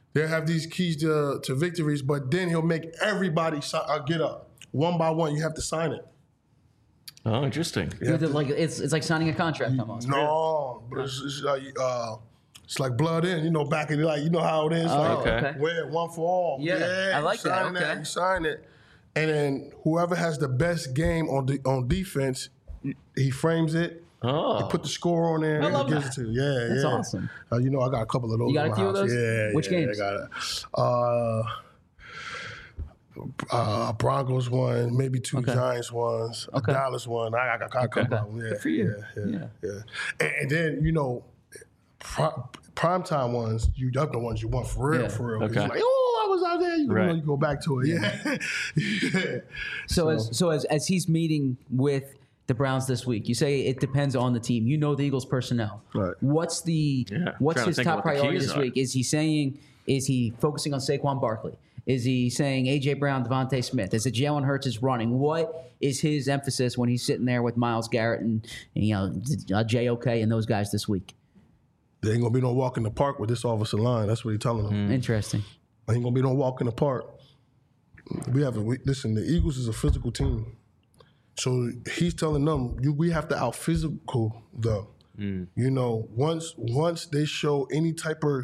They'll have these keys to, to victories, but then he'll make everybody si- uh, get up. One by one, you have to sign it. Oh, interesting. You have to, like it's it's like signing a contract almost. No, but it's, it's like uh, it's like blood in, you know, back in the, like you know how it is. Oh, like okay. wear it one for all. Yeah, I like you that, sign okay. You sign it, and then whoever has the best game on the on defense, he frames it. Oh. Put the score on there I and love he gives that. it to you. Yeah, That's yeah. awesome. Uh, you know, I got a couple of those. You got in a my few of house. those? Yeah. Which yeah, games? I got it. Uh, uh, Broncos one, maybe two Okay. Giants ones, Okay. a Dallas one. I, I got a couple of them. Yeah, Good for you. Yeah, yeah, Yeah. yeah. And, and then you know, pri- primetime ones, you that's the ones you want for real, Yeah. for real. 'Cause Okay. you're like, oh, I was out there. You, Right. know, you go back to it. Yeah. yeah. So, as so as as he's meeting with the Browns this week, you say it depends on the team. You know the Eagles personnel. Right. What's the Yeah, what's trying to his think top of what the priority keys this are. week? Is he saying is he focusing on Saquon Barkley? Is he saying A J Brown, Devontae Smith? Is it Jalen Hurts is running? What is his emphasis when he's sitting there with Myles Garrett and, and you know uh, J O K and those guys this week? There ain't gonna be no walk in the park with this offensive line. That's what he's telling them. Interesting. There ain't gonna be no walk in the park. We have a we, listen. The Eagles is a physical team, so he's telling them you, we have to out physical them. You know, once once they show any type of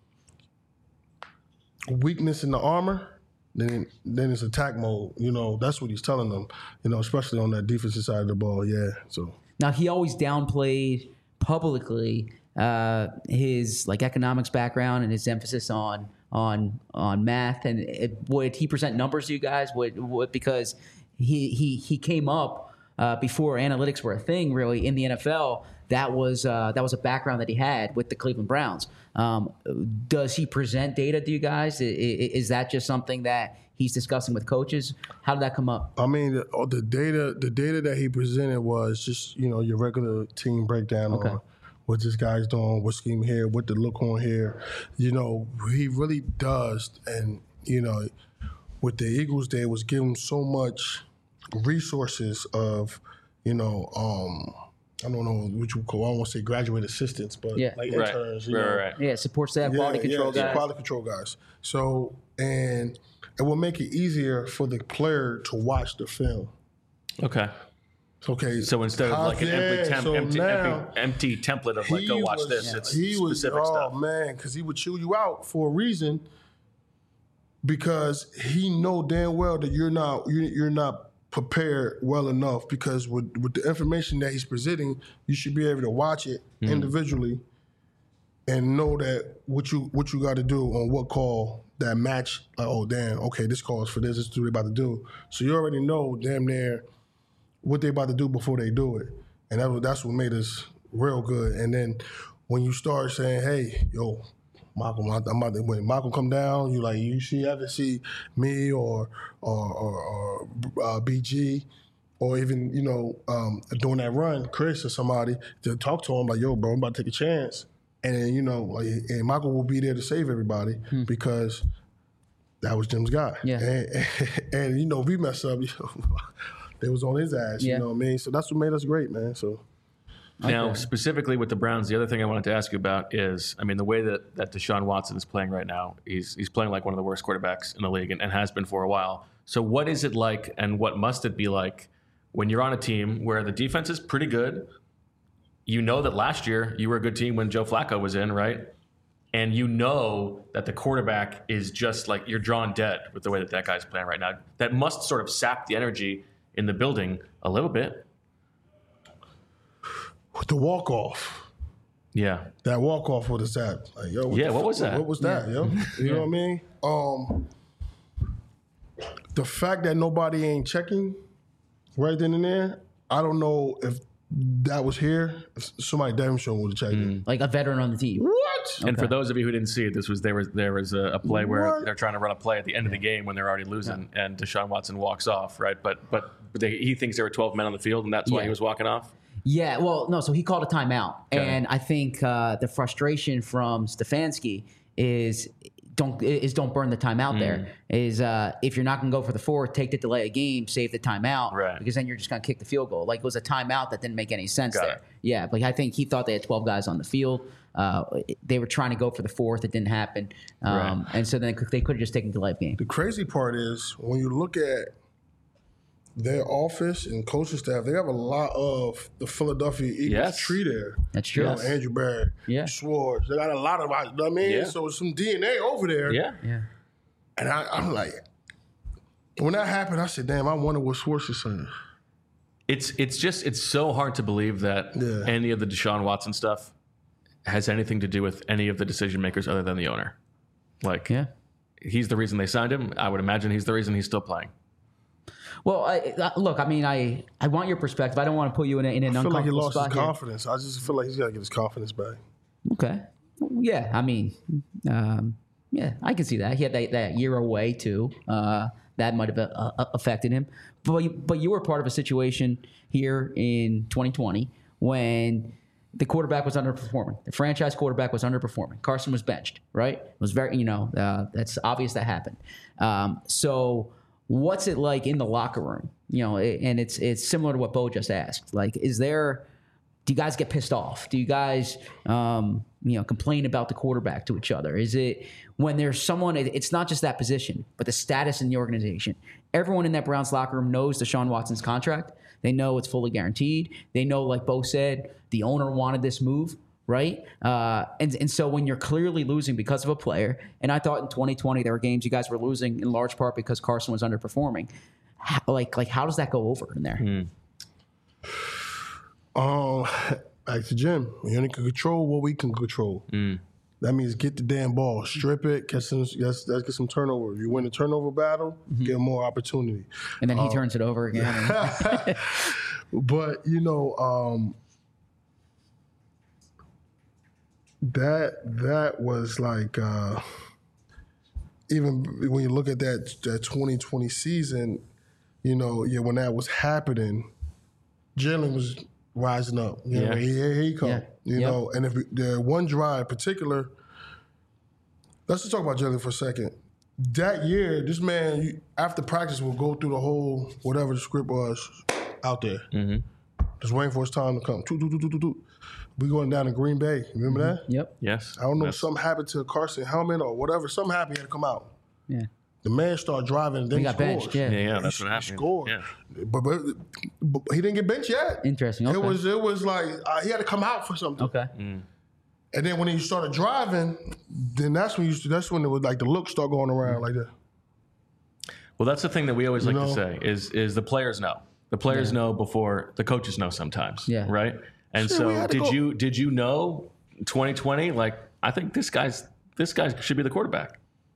weakness in the armor, then then it's attack mode. You know, that's what he's telling them. You know, especially on that defensive side of the ball. Yeah. So Now he always downplayed publicly uh, his like economics background and his emphasis on on on math. And it, would he present numbers to you guys? Would, would because he he he came up uh, before analytics were a thing really in the N F L. That was uh, that was a background that he had with the Cleveland Browns. Um, does he present data to you guys? I- I- Is that just something that he's discussing with coaches? How did that come up? I mean, the, all the data the data that he presented was just you know your regular team breakdown Okay. on what this guy's doing, what scheme here, what the look on here. You know, he really does, and you know, with the Eagles, they was giving so much resources of, you know, um, I don't know what you call. I don't want to say graduate assistants, but Yeah. like Right. interns. You Right, know, right. Yeah, support staff, quality control yeah, guys. quality control guys. So, and it will make it easier for the player to watch the film. Okay. Okay. So instead of how- like an yeah, empty, temp, so empty, now empty, empty template of like, go he watch was- this, it's he was, specific oh, stuff. man, because he would chew you out for a reason. Because he know damn well that you're not you're, you're not prepared well enough. Because with with the information that he's presenting, you should be able to watch it Mm-hmm. individually and know that what you what you got to do on what call that match. Like, oh damn, okay, this call is for this. This is what they about to do. So you already know damn near what they about to do before they do it, and that was, that's what made us real good. And then when you start saying, "Hey, yo, Malcolm, I'm about to, when Malcolm come down," you like you see, ever see me or or, or, or uh, B G, or even you know um, doing that run, Chris or somebody to talk to him like, "Yo, bro, I'm about to take a chance," and then you know, like, and Michael will be there to save everybody because that was Jim's guy. Yeah. and, and you know, if we mess up, you know, they was on his ass. Yeah. You know what I mean? So that's what made us great, man. So. Now, specifically with the Browns, the other thing I wanted to ask you about is, I mean, the way that, that Deshaun Watson is playing right now, he's he's playing like one of the worst quarterbacks in the league and, and has been for a while. So what is it like and what must it be like when you're on a team where the defense is pretty good? You know that last year you were a good team when Joe Flacco was in, right? And you know that the quarterback is just like, you're drawn dead with the way that that guy's playing right now. That must sort of sap the energy in the building a little bit. The walk off, Yeah. that walk off, what is that? Like, yo, what Yeah, the what fuck- was that? What was that, yo? You know what I mean? Um, the fact that nobody ain't checking right then and there, I don't know if that was here. If somebody damn sure would have checked it. Like a veteran on the team. What? And for those of you who didn't see it, this was there was there was a, a play where What? they're trying to run a play at the end of the game when they're already losing, and Deshaun Watson walks off, right? But but they, he thinks there were twelve men on the field, and that's why Yeah. he was walking off. Yeah, well, no, so he called a timeout. Okay. And I think uh, the frustration from Stefanski is don't is don't burn the timeout. Mm. There is uh, if you're not going to go for the fourth, take the delay of game, save the timeout, right. because then you're just going to kick the field goal. Like it was a timeout that didn't make any sense Got there. it. Yeah, like I think he thought they had twelve guys on the field. Uh, they were trying to go for the fourth, it didn't happen, um, right. and so then they could have just taken the delay of game. The crazy part is when you look at their office and coaching staff, they have a lot of the Philadelphia Eagles yes. tree there. That's true. You know, Andrew Barrett, yeah. Schwartz. They got a lot of, you know what I mean? Yeah. So some D N A over there. Yeah. Yeah. And I, I'm like, when that happened, I said, damn, I wonder what Schwartz is saying. It's it's just it's so hard to believe that Yeah. any of the Deshaun Watson stuff has anything to do with any of the decision makers other than the owner. Like, yeah. he's the reason they signed him. I would imagine he's the reason he's still playing. Well, I, I, look, I mean, I, I want your perspective. I don't want to put you in, a, in an I feel like he uncomfortable lost spot his here. confidence. I just feel like he's got to get his confidence back. Okay. Yeah, I mean, um, yeah, I can see that. He had that, that year away, too. Uh, that might have uh, affected him. But you, but you were part of a situation here in twenty twenty when the quarterback was underperforming. The franchise quarterback was underperforming. Carson was benched, right? It was very, you know, uh, that's obvious that happened. Um, so what's it like in the locker room? You know, and it's it's similar to what Bo just asked. Like, is there, do you guys get pissed off? Do you guys, um, you know, complain about the quarterback to each other? Is it when there's someone, it's not just that position, but the status in the organization. Everyone in that Browns locker room knows Deshaun Watson's contract. They know it's fully guaranteed. They know, like Bo said, the owner wanted this move, right? Uh, and, and so when you're clearly losing because of a player, and I thought in twenty twenty there were games you guys were losing in large part because Carson was underperforming. How, like, like how does that go over in there? Mm. Um, back to Jim. We only can control what we can control. Mm. That means get the damn ball, strip it, get some, let's, let's get some turnover. If you win the turnover battle, mm-hmm. get more opportunity. And then he um, turns it over again. But, you know, um, that that was like, uh, even when you look at that, that twenty twenty season, you know, yeah, when that was happening, Jalen was rising up. You know, Yeah. here, here he come. Yeah. You Yep. know, and if the one drive in particular, let's just talk about Jalen for a second. That year, this man, you, after practice, will go through the whole, whatever the script was, out there. Mm-hmm. Just waiting for his time to come. Toot, toot, toot, toot, toot. We going down to Green Bay. Remember Mm-hmm. that? Yep. Yes. I don't know Yes. if something happened to Carson Hellman or whatever. Something happened, he had to come out. Yeah. The man started driving and then He he got scores. benched, yeah. Yeah, yeah, that's he, what happened. He scored. Yeah. But, but, but he didn't get benched yet. Interesting. Okay. It was it was like uh, he had to come out for something. Okay. Mm. And then when he started driving, then that's when you that's when it was like the looks start going around like that. Well, that's the thing that we always like You know? to say is is the players know. The players Yeah. know before the coaches know sometimes. Yeah. Right. And Sure, we so, had to did go- you did you know twenty twenty? Like, I think this guy's this guy should be the quarterback.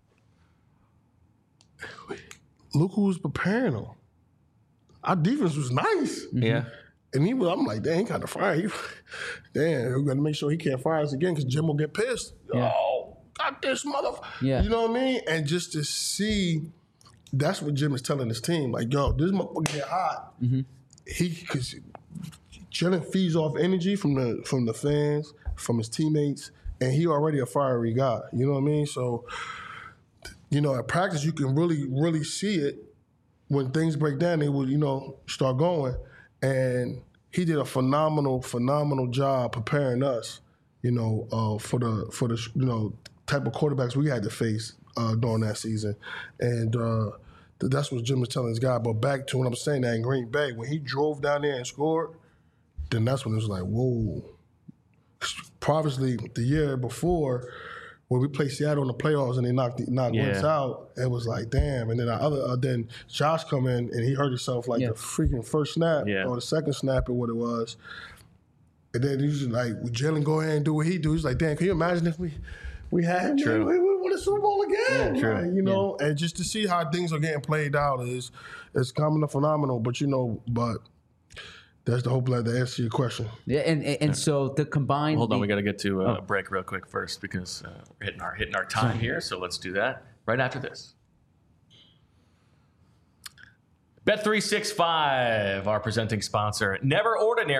Look who was preparing him. Our defense was nice. Yeah. And he was, I'm like, damn, he kind of fired. He, damn, we got to make sure he can't fire us again because Jim will get pissed. Yeah. Oh, got this motherfucker. Yeah. You know what I mean? And just to see, that's what Jim is telling his team. Like, yo, this motherfucker get hot. Mm-hmm. He, because Jalen feeds off energy from the from the fans, from his teammates, and he already a fiery guy. You know what I mean? So, you know, at practice, you can really, really see it. When things break down, they will, you know, start going. And he did a phenomenal, phenomenal job preparing us, you know, uh, for the for the you know type of quarterbacks we had to face uh, during that season. And uh, that's what Jim was telling his guy. But back to what I'm saying, that in Green Bay, when he drove down there and scored, then that's when it was like, whoa. Previously, the year before, when we played Seattle in the playoffs and they knocked knocked Yeah. Wentz out, it was like, damn. And then our other, uh, then Josh come in and he hurt himself like Yeah. the freaking first snap Yeah. or the second snap or what it was. And then he was like, would Jalen go ahead and do what he do? He's like, damn, can you imagine if we we had him? True. We, we won the Super Bowl again. Yeah, true. Like, you know, and just to see how things are getting played out is is kind of phenomenal. But you know, but that's the hope that to answer your question. Yeah, and and, and so the combined. Hold on, the- we got to get to Oh. a break real quick first because uh, we're hitting our hitting our time here. So let's do that right after this. Bet three sixty-five, our presenting sponsor. Never ordinary,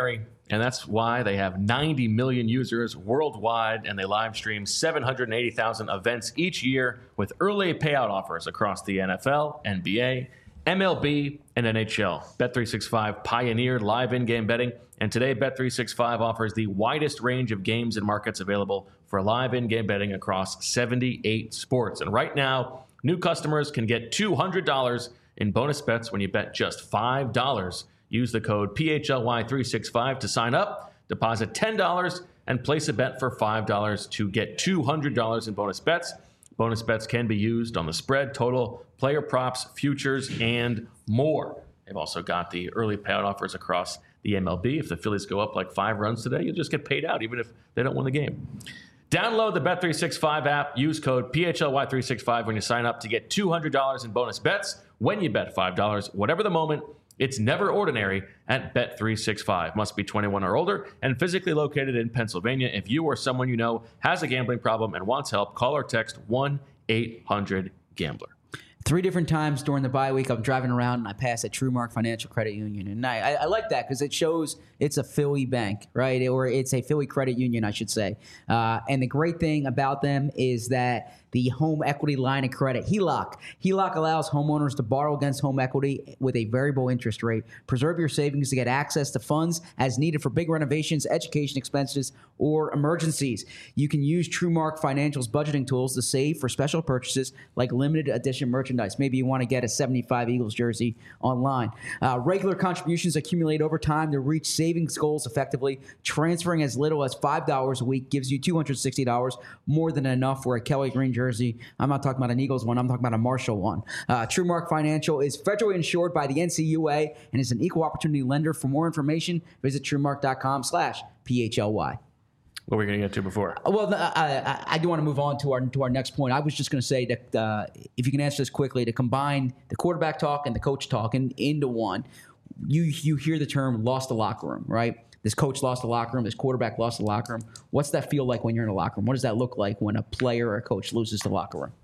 And that's why they have ninety million users worldwide, and they live stream seven hundred eighty thousand events each year with early payout offers across the N F L, N B A, M L B, and N H L. Bet three sixty-five pioneered live in-game betting, and today Bet three sixty-five offers the widest range of games and markets available for live in-game betting across seventy-eight sports. And right now, new customers can get two hundred dollars in bonus bets when you bet just five dollars. Use the code P H L Y three sixty-five to sign up, deposit ten dollars, and place a bet for five dollars to get two hundred dollars in bonus bets. Bonus bets can be used on the spread, total, player props, futures, and more. They've also got the early payout offers across the M L B. If the Phillies go up like five runs today, you'll just get paid out even if they don't win the game. Download the Bet three sixty-five app. Use code P H L Y three sixty-five when you sign up to get two hundred dollars in bonus bets when you bet five dollars. Whatever the moment, it's never ordinary at Bet three sixty-five. Must be twenty-one or older and physically located in Pennsylvania. If you or someone you know has a gambling problem and wants help, call or text one eight hundred gambler. Three different times during the bye week, I'm driving around and I pass at TrueMark Financial Credit Union. And I, I, I like that because it shows it's a Philly bank, right? Or it's a Philly credit union, I should say. Uh, and the great thing about them is that the home equity line of credit, H E L O C. H E L O C allows homeowners to borrow against home equity with a variable interest rate. Preserve your savings to get access to funds as needed for big renovations, education expenses, or emergencies. You can use TrueMark Financial's budgeting tools to save for special purchases like limited edition merchandise. Maybe you want to get a seventy-five Eagles jersey online. Uh, regular contributions accumulate over time to reach savings goals effectively. Transferring as little as five dollars a week gives you two hundred sixty dollars, more than enough for a Kelly Green jersey. I'm not talking about an Eagles one. I'm talking about a Marshall one. Uh, TrueMark Financial is federally insured by the N C U A and is an equal opportunity lender. For more information, visit TrueMark.com slash PHLY. What were we going to get to before? Well, I, I, I do want to move on to our to our next point. I was just going to say that uh, if you can answer this quickly, to combine the quarterback talk and the coach talk in, into one, you you hear the term lost the locker room, right? This coach lost the locker room. This quarterback lost the locker room. What's that feel like when you're in a locker room? What does that look like when a player or a coach loses the locker room?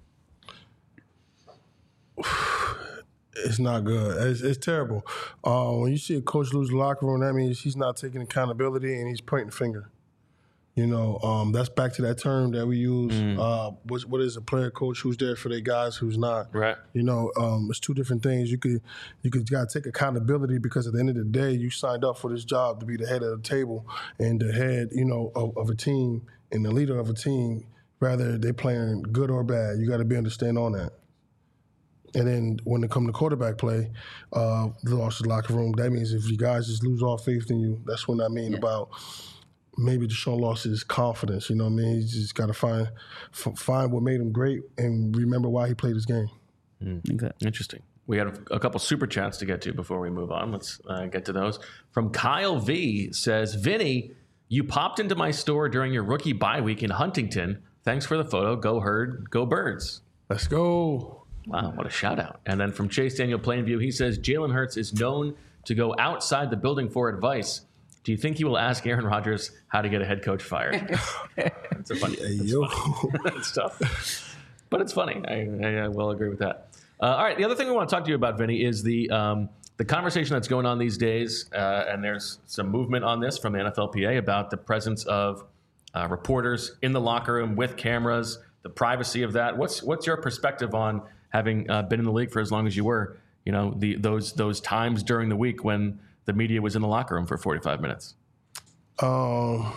It's not good. It's, it's terrible. Uh, when you see a coach lose the locker room, that means he's not taking accountability and he's pointing the finger. You know, um, that's back to that term that we use. Mm. Uh, what, what is a player coach who's there for their guys, who's not? Right. You know, um, it's two different things. You could, you could gotta take accountability because at the end of the day, you signed up for this job to be the head of the table and the head, you know, of, of a team and the leader of a team. Rather they playing good or bad, you got to be understand on that. And then when it comes to quarterback play, uh, the lost the locker room. That means if you guys just lose all faith in you, that's what I mean yeah. about. Maybe Deshaun lost his confidence, you know what I mean? He's just got to find f- find what made him great and remember why he played his game. Mm. Okay. Interesting. We had a, a couple super chats to get to before we move on. Let's uh, get to those. From Kyle V says, Vinny, you popped into my store during your rookie bye week in Huntington. Thanks for the photo. Go Herd, go Birds. Let's go. Wow, what a shout out. And then from Chase Daniel Plainview, he says, Jalen Hurts is known to go outside the building for advice. Do you think he will ask Aaron Rodgers how to get a head coach fired? It's a funny. Hey, it's yo. funny. It's tough, but it's funny. I, I, I will agree with that. Uh, all right, the other thing we want to talk to you about, Vinny, is the um, the conversation that's going on these days, uh, and there's some movement on this from the N F L P A about the presence of uh, reporters in the locker room with cameras, the privacy of that. What's what's your perspective on having uh, been in the league for as long as you were? You know, the those those times during the week when the media was in the locker room for forty-five minutes. Um,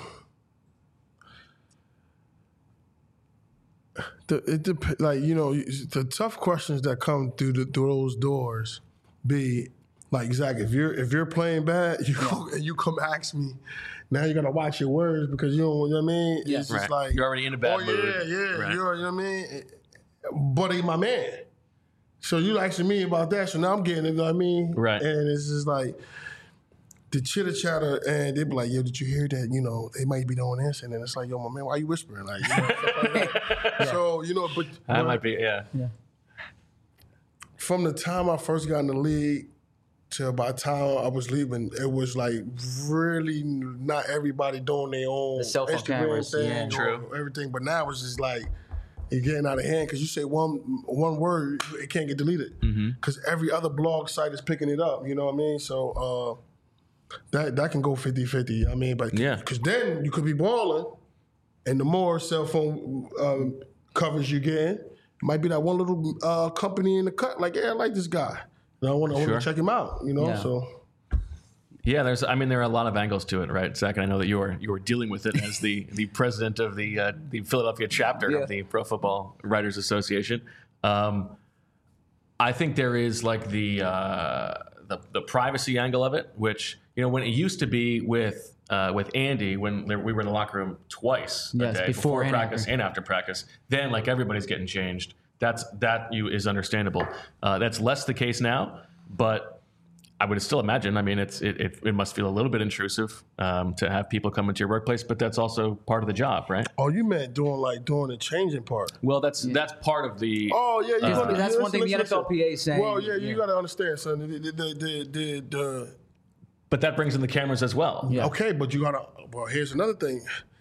the, it dep- like you know the tough questions that come through the, through those doors be like Zach, if you're if you're playing bad, you yeah. you come ask me. Now you gotta watch your words because you don't. You know what I mean? Yeah. It's just right. like you're already in a bad oh, mood. yeah, yeah. Right. You're, you know what I mean? But he's my man. So you asking me about that. So now I'm getting it. You know what I mean? Right. And it's just like. The chitter chatter, and they'd be like, "Yo, did you hear that? You know, they might be doing this," and then it's like, "Yo, my man, why are you whispering?" Like, you know, stuff like that. Yeah. So you know, but that but might be, yeah. yeah. From the time I first got in the league to by the time I was leaving, it was like really not everybody doing their own the cell phone Instagram cameras, thing, yeah, true. or everything. But now it's just like it's getting out of hand because you say one one word, it can't get deleted because mm-hmm. every other blog site is picking it up. You know what I mean? So. Uh, that that can go fifty-fifty. I mean, but Yeah. because then you could be balling, and the more cell phone um, coverage you get, it might be that one little uh, company in the cut. Like, yeah, I like this guy. And I want to Sure. check him out. You know, Yeah. so. Yeah, there's. I mean, there are a lot of angles to it, right, Zach? And I know that you were you were dealing with it as the, the president of the uh, the Philadelphia chapter Yeah. of the Pro Football Writers Association. Um, I think there is like the, uh, the the privacy angle of it, which you know when it used to be with uh, with Andy when there, we were in the locker room twice Yes, a day before and practice after. and after practice. Then like everybody's getting changed. That's that you is understandable. Uh, that's less the case now, but. I would still imagine. I mean, it's it, it, it must feel a little bit intrusive um, to have people come into your workplace, but that's also part of the job, right? Oh, you meant doing like doing the changing part. Well, that's that's part of the. Oh yeah, you Uh, gonna, That's yeah, one thing listen, the listen, N F L P A is saying. Well, yeah, you Yeah. got to understand, son. The, the, the, the, the, But that brings in the cameras as well. Yeah. Okay, but you got to. Well, here's another thing.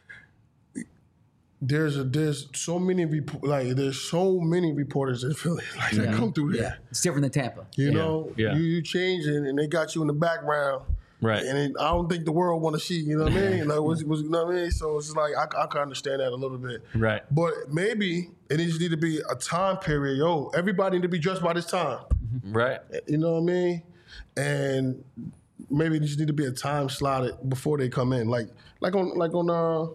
There's a there's so many rep- like there's so many reporters in Philly like that Yeah. come through there. Yeah, it's different than Tampa. You Yeah. know, Yeah. you you changing and they got you in the background. Right. And it, I don't think the world want to see, you know what I mean? Like, what's, what's, you know what I mean? So it's like, I, I can understand that a little bit. Right. But maybe it needs to be a time period. Yo, everybody need to be dressed by this time. Right. You know what I mean? And maybe it just need to be a time slotted before they come in. Like like on like on uh,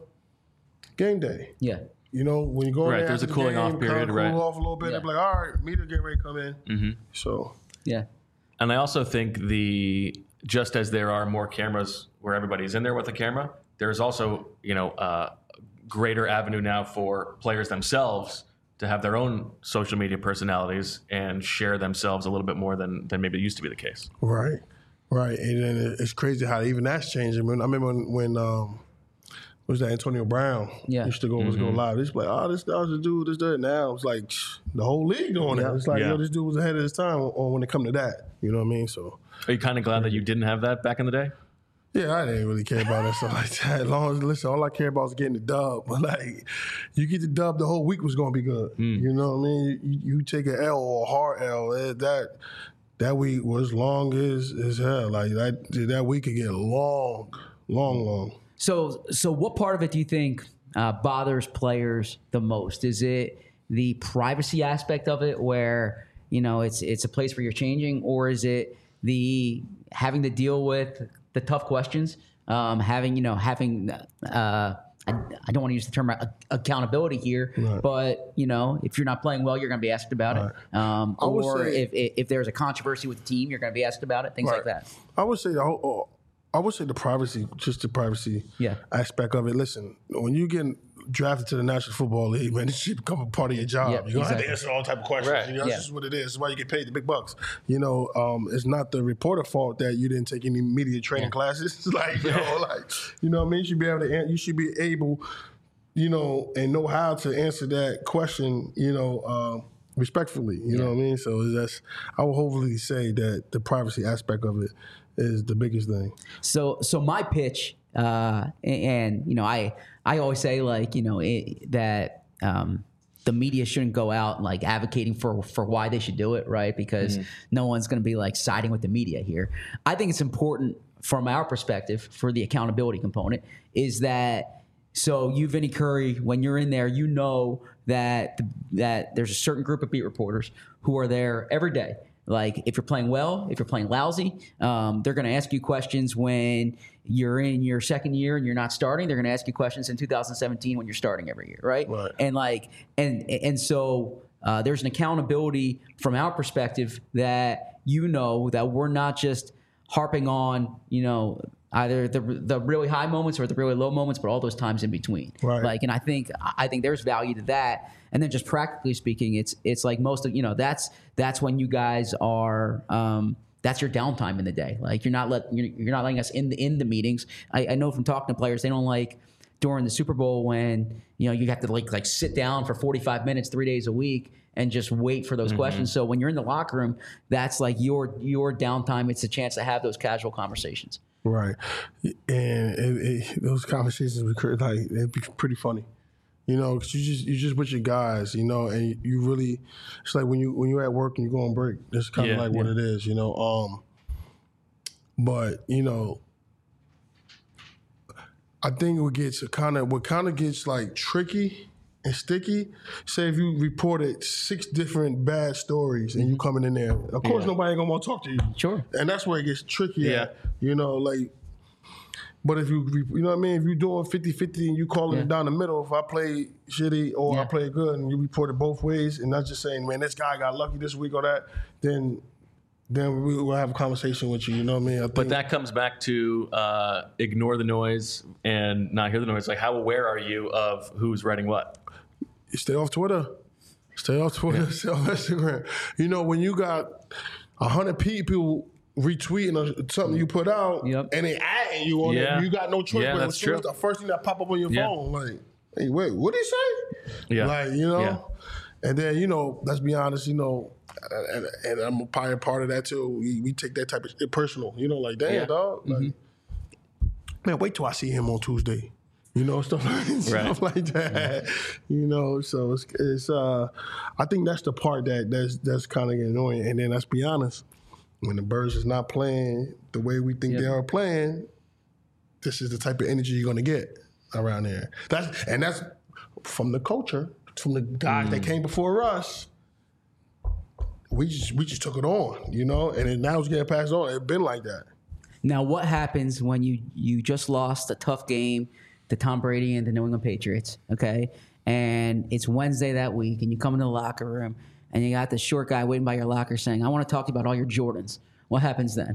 game day. Yeah. You know, when you go in Right, there there's after a the cooling game, off kinda period, cool right. off a little bit. Yeah. They're like, all right, media getting ready to come in. Mm-hmm. So, Yeah. And I also think the just as there are more cameras where everybody's in there with a camera, there's also you know uh, greater avenue now for players themselves to have their own social media personalities and share themselves a little bit more than than maybe it used to be the case. right, right. And then it's crazy how even that's changing. When, I remember when, when um, what was that, Antonio Brown Yeah. used to go was go live. It's like, oh, this that was the dude, this, that. Now it's like shh, the whole league doing Yeah. it. It's like, Yeah. yo, this dude was ahead of his time on when it come to that. You know what I mean? So, Are you kind of glad that you didn't have that back in the day? yeah, I didn't really care about that stuff like that. As long as, listen, all I care about is getting the dub. But, like, you get the dub, the whole week was going to be good. You know what I mean? You, you take an L or a hard L, eh, that that week was long as, as hell. Like, that, that week could get long, long, long. So, so what part of it do you think uh, bothers players the most? Is it the privacy aspect of it, where you know it's it's a place where you're changing, or is it the having to deal with the tough questions, um, having you know having uh, I, I don't want to use the term a- accountability here, Right. but you know if you're not playing well, you're going to be asked about it, um, I would or say- if, if if there's a controversy with the team, you're going to be asked about it, things like Right. that. I would say the whole, I would say the privacy, just the privacy Yeah. aspect of it. Listen, when you get drafted to the National Football League, man, this shit become a part of your job. Yeah, You're gonna have exactly. to answer all type of questions. Right. You know, Yeah. that's just what it is. That's why you get paid the big bucks. You know, um, it's not the reporter fault that you didn't take any media training classes. It's like, you know, like, you know what I mean? You should be able to, an- you should be able, you know, and know how to answer that question, you know, um, respectfully. You know what I mean? So that's, I will hopefully say that the privacy aspect of it is the biggest thing. So, so my pitch, uh, and, and you know, I I always say like you know it, that um, the media shouldn't go out like advocating for for why they should do it, right? Because no one's going to be like siding with the media here. I think it's important from our perspective for the accountability component is that so you, Vinny Curry, when you're in there, you know that that there's a certain group of beat reporters who are there every day. Like if you're playing well, if you're playing lousy, um, they're going to ask you questions when you're in your second year and you're not starting. They're going to ask you questions in two thousand seventeen when you're starting every year, right? Right. And like, and and so uh, there's an accountability from our perspective that you know that we're not just harping on, you know, either the the really high moments or the really low moments, but all those times in between. Right. Like, and I think I think there's value to that. And then just practically speaking, it's it's like most of you know that's that's when you guys are. Um, that's your downtime in the day. Like you're not let you're, you're not letting us in the in the meetings. I, I know from talking to players, they don't like during the Super Bowl when you know you have to like like sit down for forty-five minutes, three days a week, and just wait for those questions. So when you're in the locker room, that's like your your downtime. It's a chance to have those casual conversations. Right, and it, it, those conversations were cra- like it'd be pretty funny, you know, 'cause you just you just with your guys, you know, and you, you really it's like when you when you're at work and you go on break. That's kind of Yeah, like what it is, you know. Um, but you know, I think what gets kind of what kind of gets like tricky and sticky. Say if you reported six different bad stories and you coming in there, of course Yeah. nobody gonna want to talk to you. Sure. And that's where it gets tricky. Yeah. At, you know, like. But if you, you know what I mean? If you're doing fifty-fifty and you calling Yeah. it down the middle, if I play shitty or Yeah. I play good and you report it both ways and not just saying, man, this guy got lucky this week or that, then then we will have a conversation with you. You know what I mean? I think, But that comes back to uh, ignore the noise and not hear the noise. Like, how aware are you of who's writing what? stay off Twitter. Stay off Twitter. Yeah. Stay off Instagram. You know, when you got one hundred people retweeting something you put out Yep. and they adding you on Yeah. it, you got no choice. Yeah, but that's as soon as true. the first thing that pop up on your Yeah. phone, like, hey, wait, what did he say? Yeah. Like, you know? Yeah. And then, you know, let's be honest, you know, and, and I'm probably a part of that too. We, we take that type of shit personal. You know, like, damn, Yeah. dog. Like, man, wait till I see him on Tuesday. You know, stuff like, stuff like that. You know, so it's, it's uh, I think that's the part that that's that's kind of annoying. And then let's be honest, when the Birds is not playing the way we think Yep. they are playing, this is the type of energy you're gonna get around there. That's and that's from the culture, from the guys that came before us. We just we just took it on, you know, and then now it's getting passed on. It's been like that. Now, what happens when you you just lost a tough game to Tom Brady and the New England Patriots, okay? And it's Wednesday that week, and you come into the locker room, and you got the short guy waiting by your locker saying, I want to talk to you about all your Jordans. What happens then?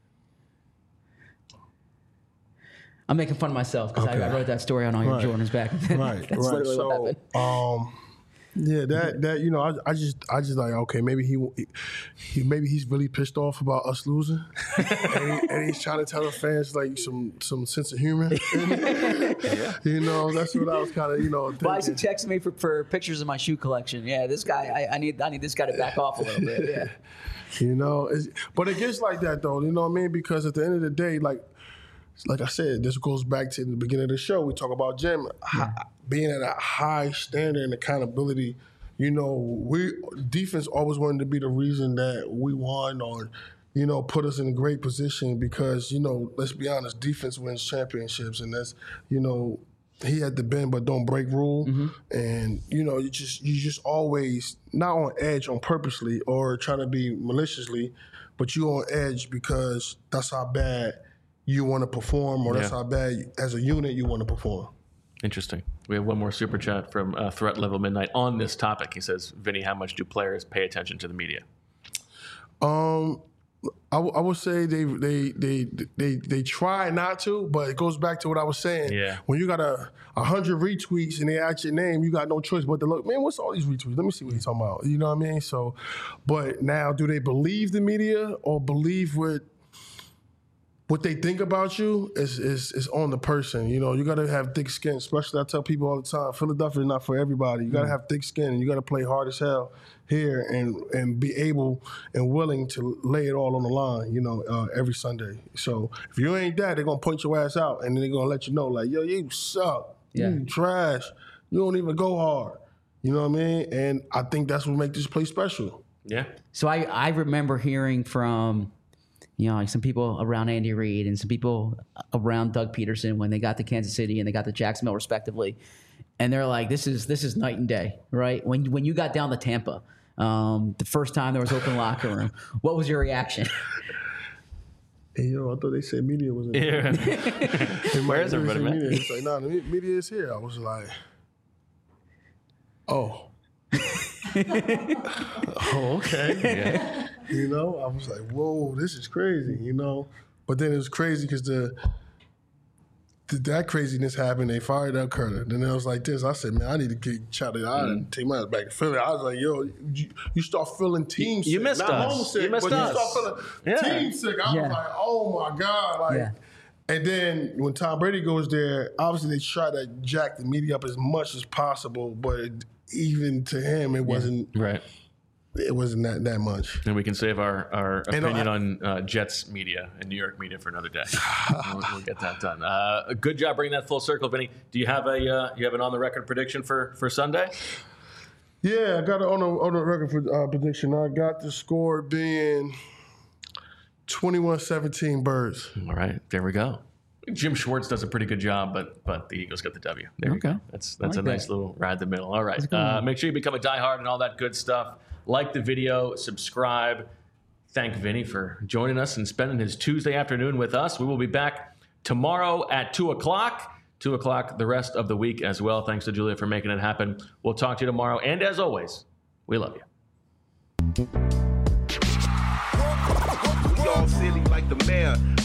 I'm making fun of myself because Okay. I, I wrote that story on all your Right. Jordans back then. Right, That's right. literally what happened. So, um, yeah, that that you know, I, I just I just like okay, maybe he, he maybe he's really pissed off about us losing, and, he, and he's trying to tell the fans like some some sense of humor. yeah. You know, that's what I was kind of you know. Why is he thinking. texting me for, for pictures of my shoe collection? Yeah, this guy, I, I need I need this guy to back off a little bit. Yeah. You know, it's, but it gets like that though. You know what I mean? Because at the end of the day, like. Like I said, this goes back to the beginning of the show. We talk about Jim hi, being at a high standard and accountability. You know, we defense always wanted to be the reason that we won or, you know, put us in a great position because, you know, let's be honest, defense wins championships. And that's, you know, he had the bend but don't break rule. Mm-hmm. And, you know, you just you just always not on edge on purposely or trying to be maliciously, but you on edge because that's how bad you want to perform, or that's Yeah. how bad, as a unit, you want to perform. Interesting. We have one more super chat from uh, Threat Level Midnight on this topic. He says, Vinny, how much do players pay attention to the media? Um, I, w- I would say they, they they they they try not to, but it goes back to what I was saying. Yeah. When you got a, a hundred retweets and they ask your name, you got no choice but to look, man, what's all these retweets? Let me see what he's talking about. You know what I mean? So, but now, do they believe the media or believe what what they think about you is, is is on the person. You know, you got to have thick skin, especially I tell people all the time, Philadelphia is not for everybody. You got to have thick skin and you got to play hard as hell here and and be able and willing to lay it all on the line, you know, uh, every Sunday. So if you ain't that, they're going to point your ass out and then they're going to let you know, like, yo, you suck. Yeah. You trash. You don't even go hard. You know what I mean? And I think that's what makes this place special. Yeah. So I, I remember hearing from, you know, like some people around Andy Reid and some people around Doug Peterson when they got to Kansas City and they got to Jacksonville respectively. And they're like, this is this is night and day, right? When when you got down to Tampa, um, the first time there was open locker room, what was your reaction? Hey, yo, I thought they said media was in there. Yeah. Where is everybody, man? Media. It's like, nah, the me- media is here. I was like, oh. oh, okay. Yeah. You know, I was like, whoa, this is crazy, you know? But then it was crazy because the, the that craziness happened. They fired Doug Curtin. Then it was like this. I said, man, I need to get shouted out Mm. and take my ass back to Philly. I was like, yo, you, you start feeling team sick. you missed Not us. homesick, You missed but us. you start feeling Yeah. team sick. I Yeah. was like, oh my God. Like, Yeah. and then when Tom Brady goes there, obviously they try to jack the media up as much as possible, but it, even to him, it wasn't Right. it wasn't that, that much. And we can save our, our And opinion I- on uh, Jets media and New York media for another day. we'll, we'll get that done. Uh, good job bringing that full circle, Vinny. Do you have a uh, you have an on the record prediction for, for Sunday? Yeah, I got it on the on the record for uh, prediction. I got the score being twenty-one seventeen Birds. All right, there we go. Jim Schwartz does a pretty good job, but but the Eagles get the W. There Okay. you go. That's that's like a nice that. little ride the middle. All right. Uh, make sure you become a diehard and all that good stuff. Like the video, subscribe. Thank Vinny for joining us and spending his Tuesday afternoon with us. We will be back tomorrow at two o'clock. two o'clock the rest of the week as well. Thanks to Julia for making it happen. We'll talk to you tomorrow. And as always, we love you. We all silly like the mayor.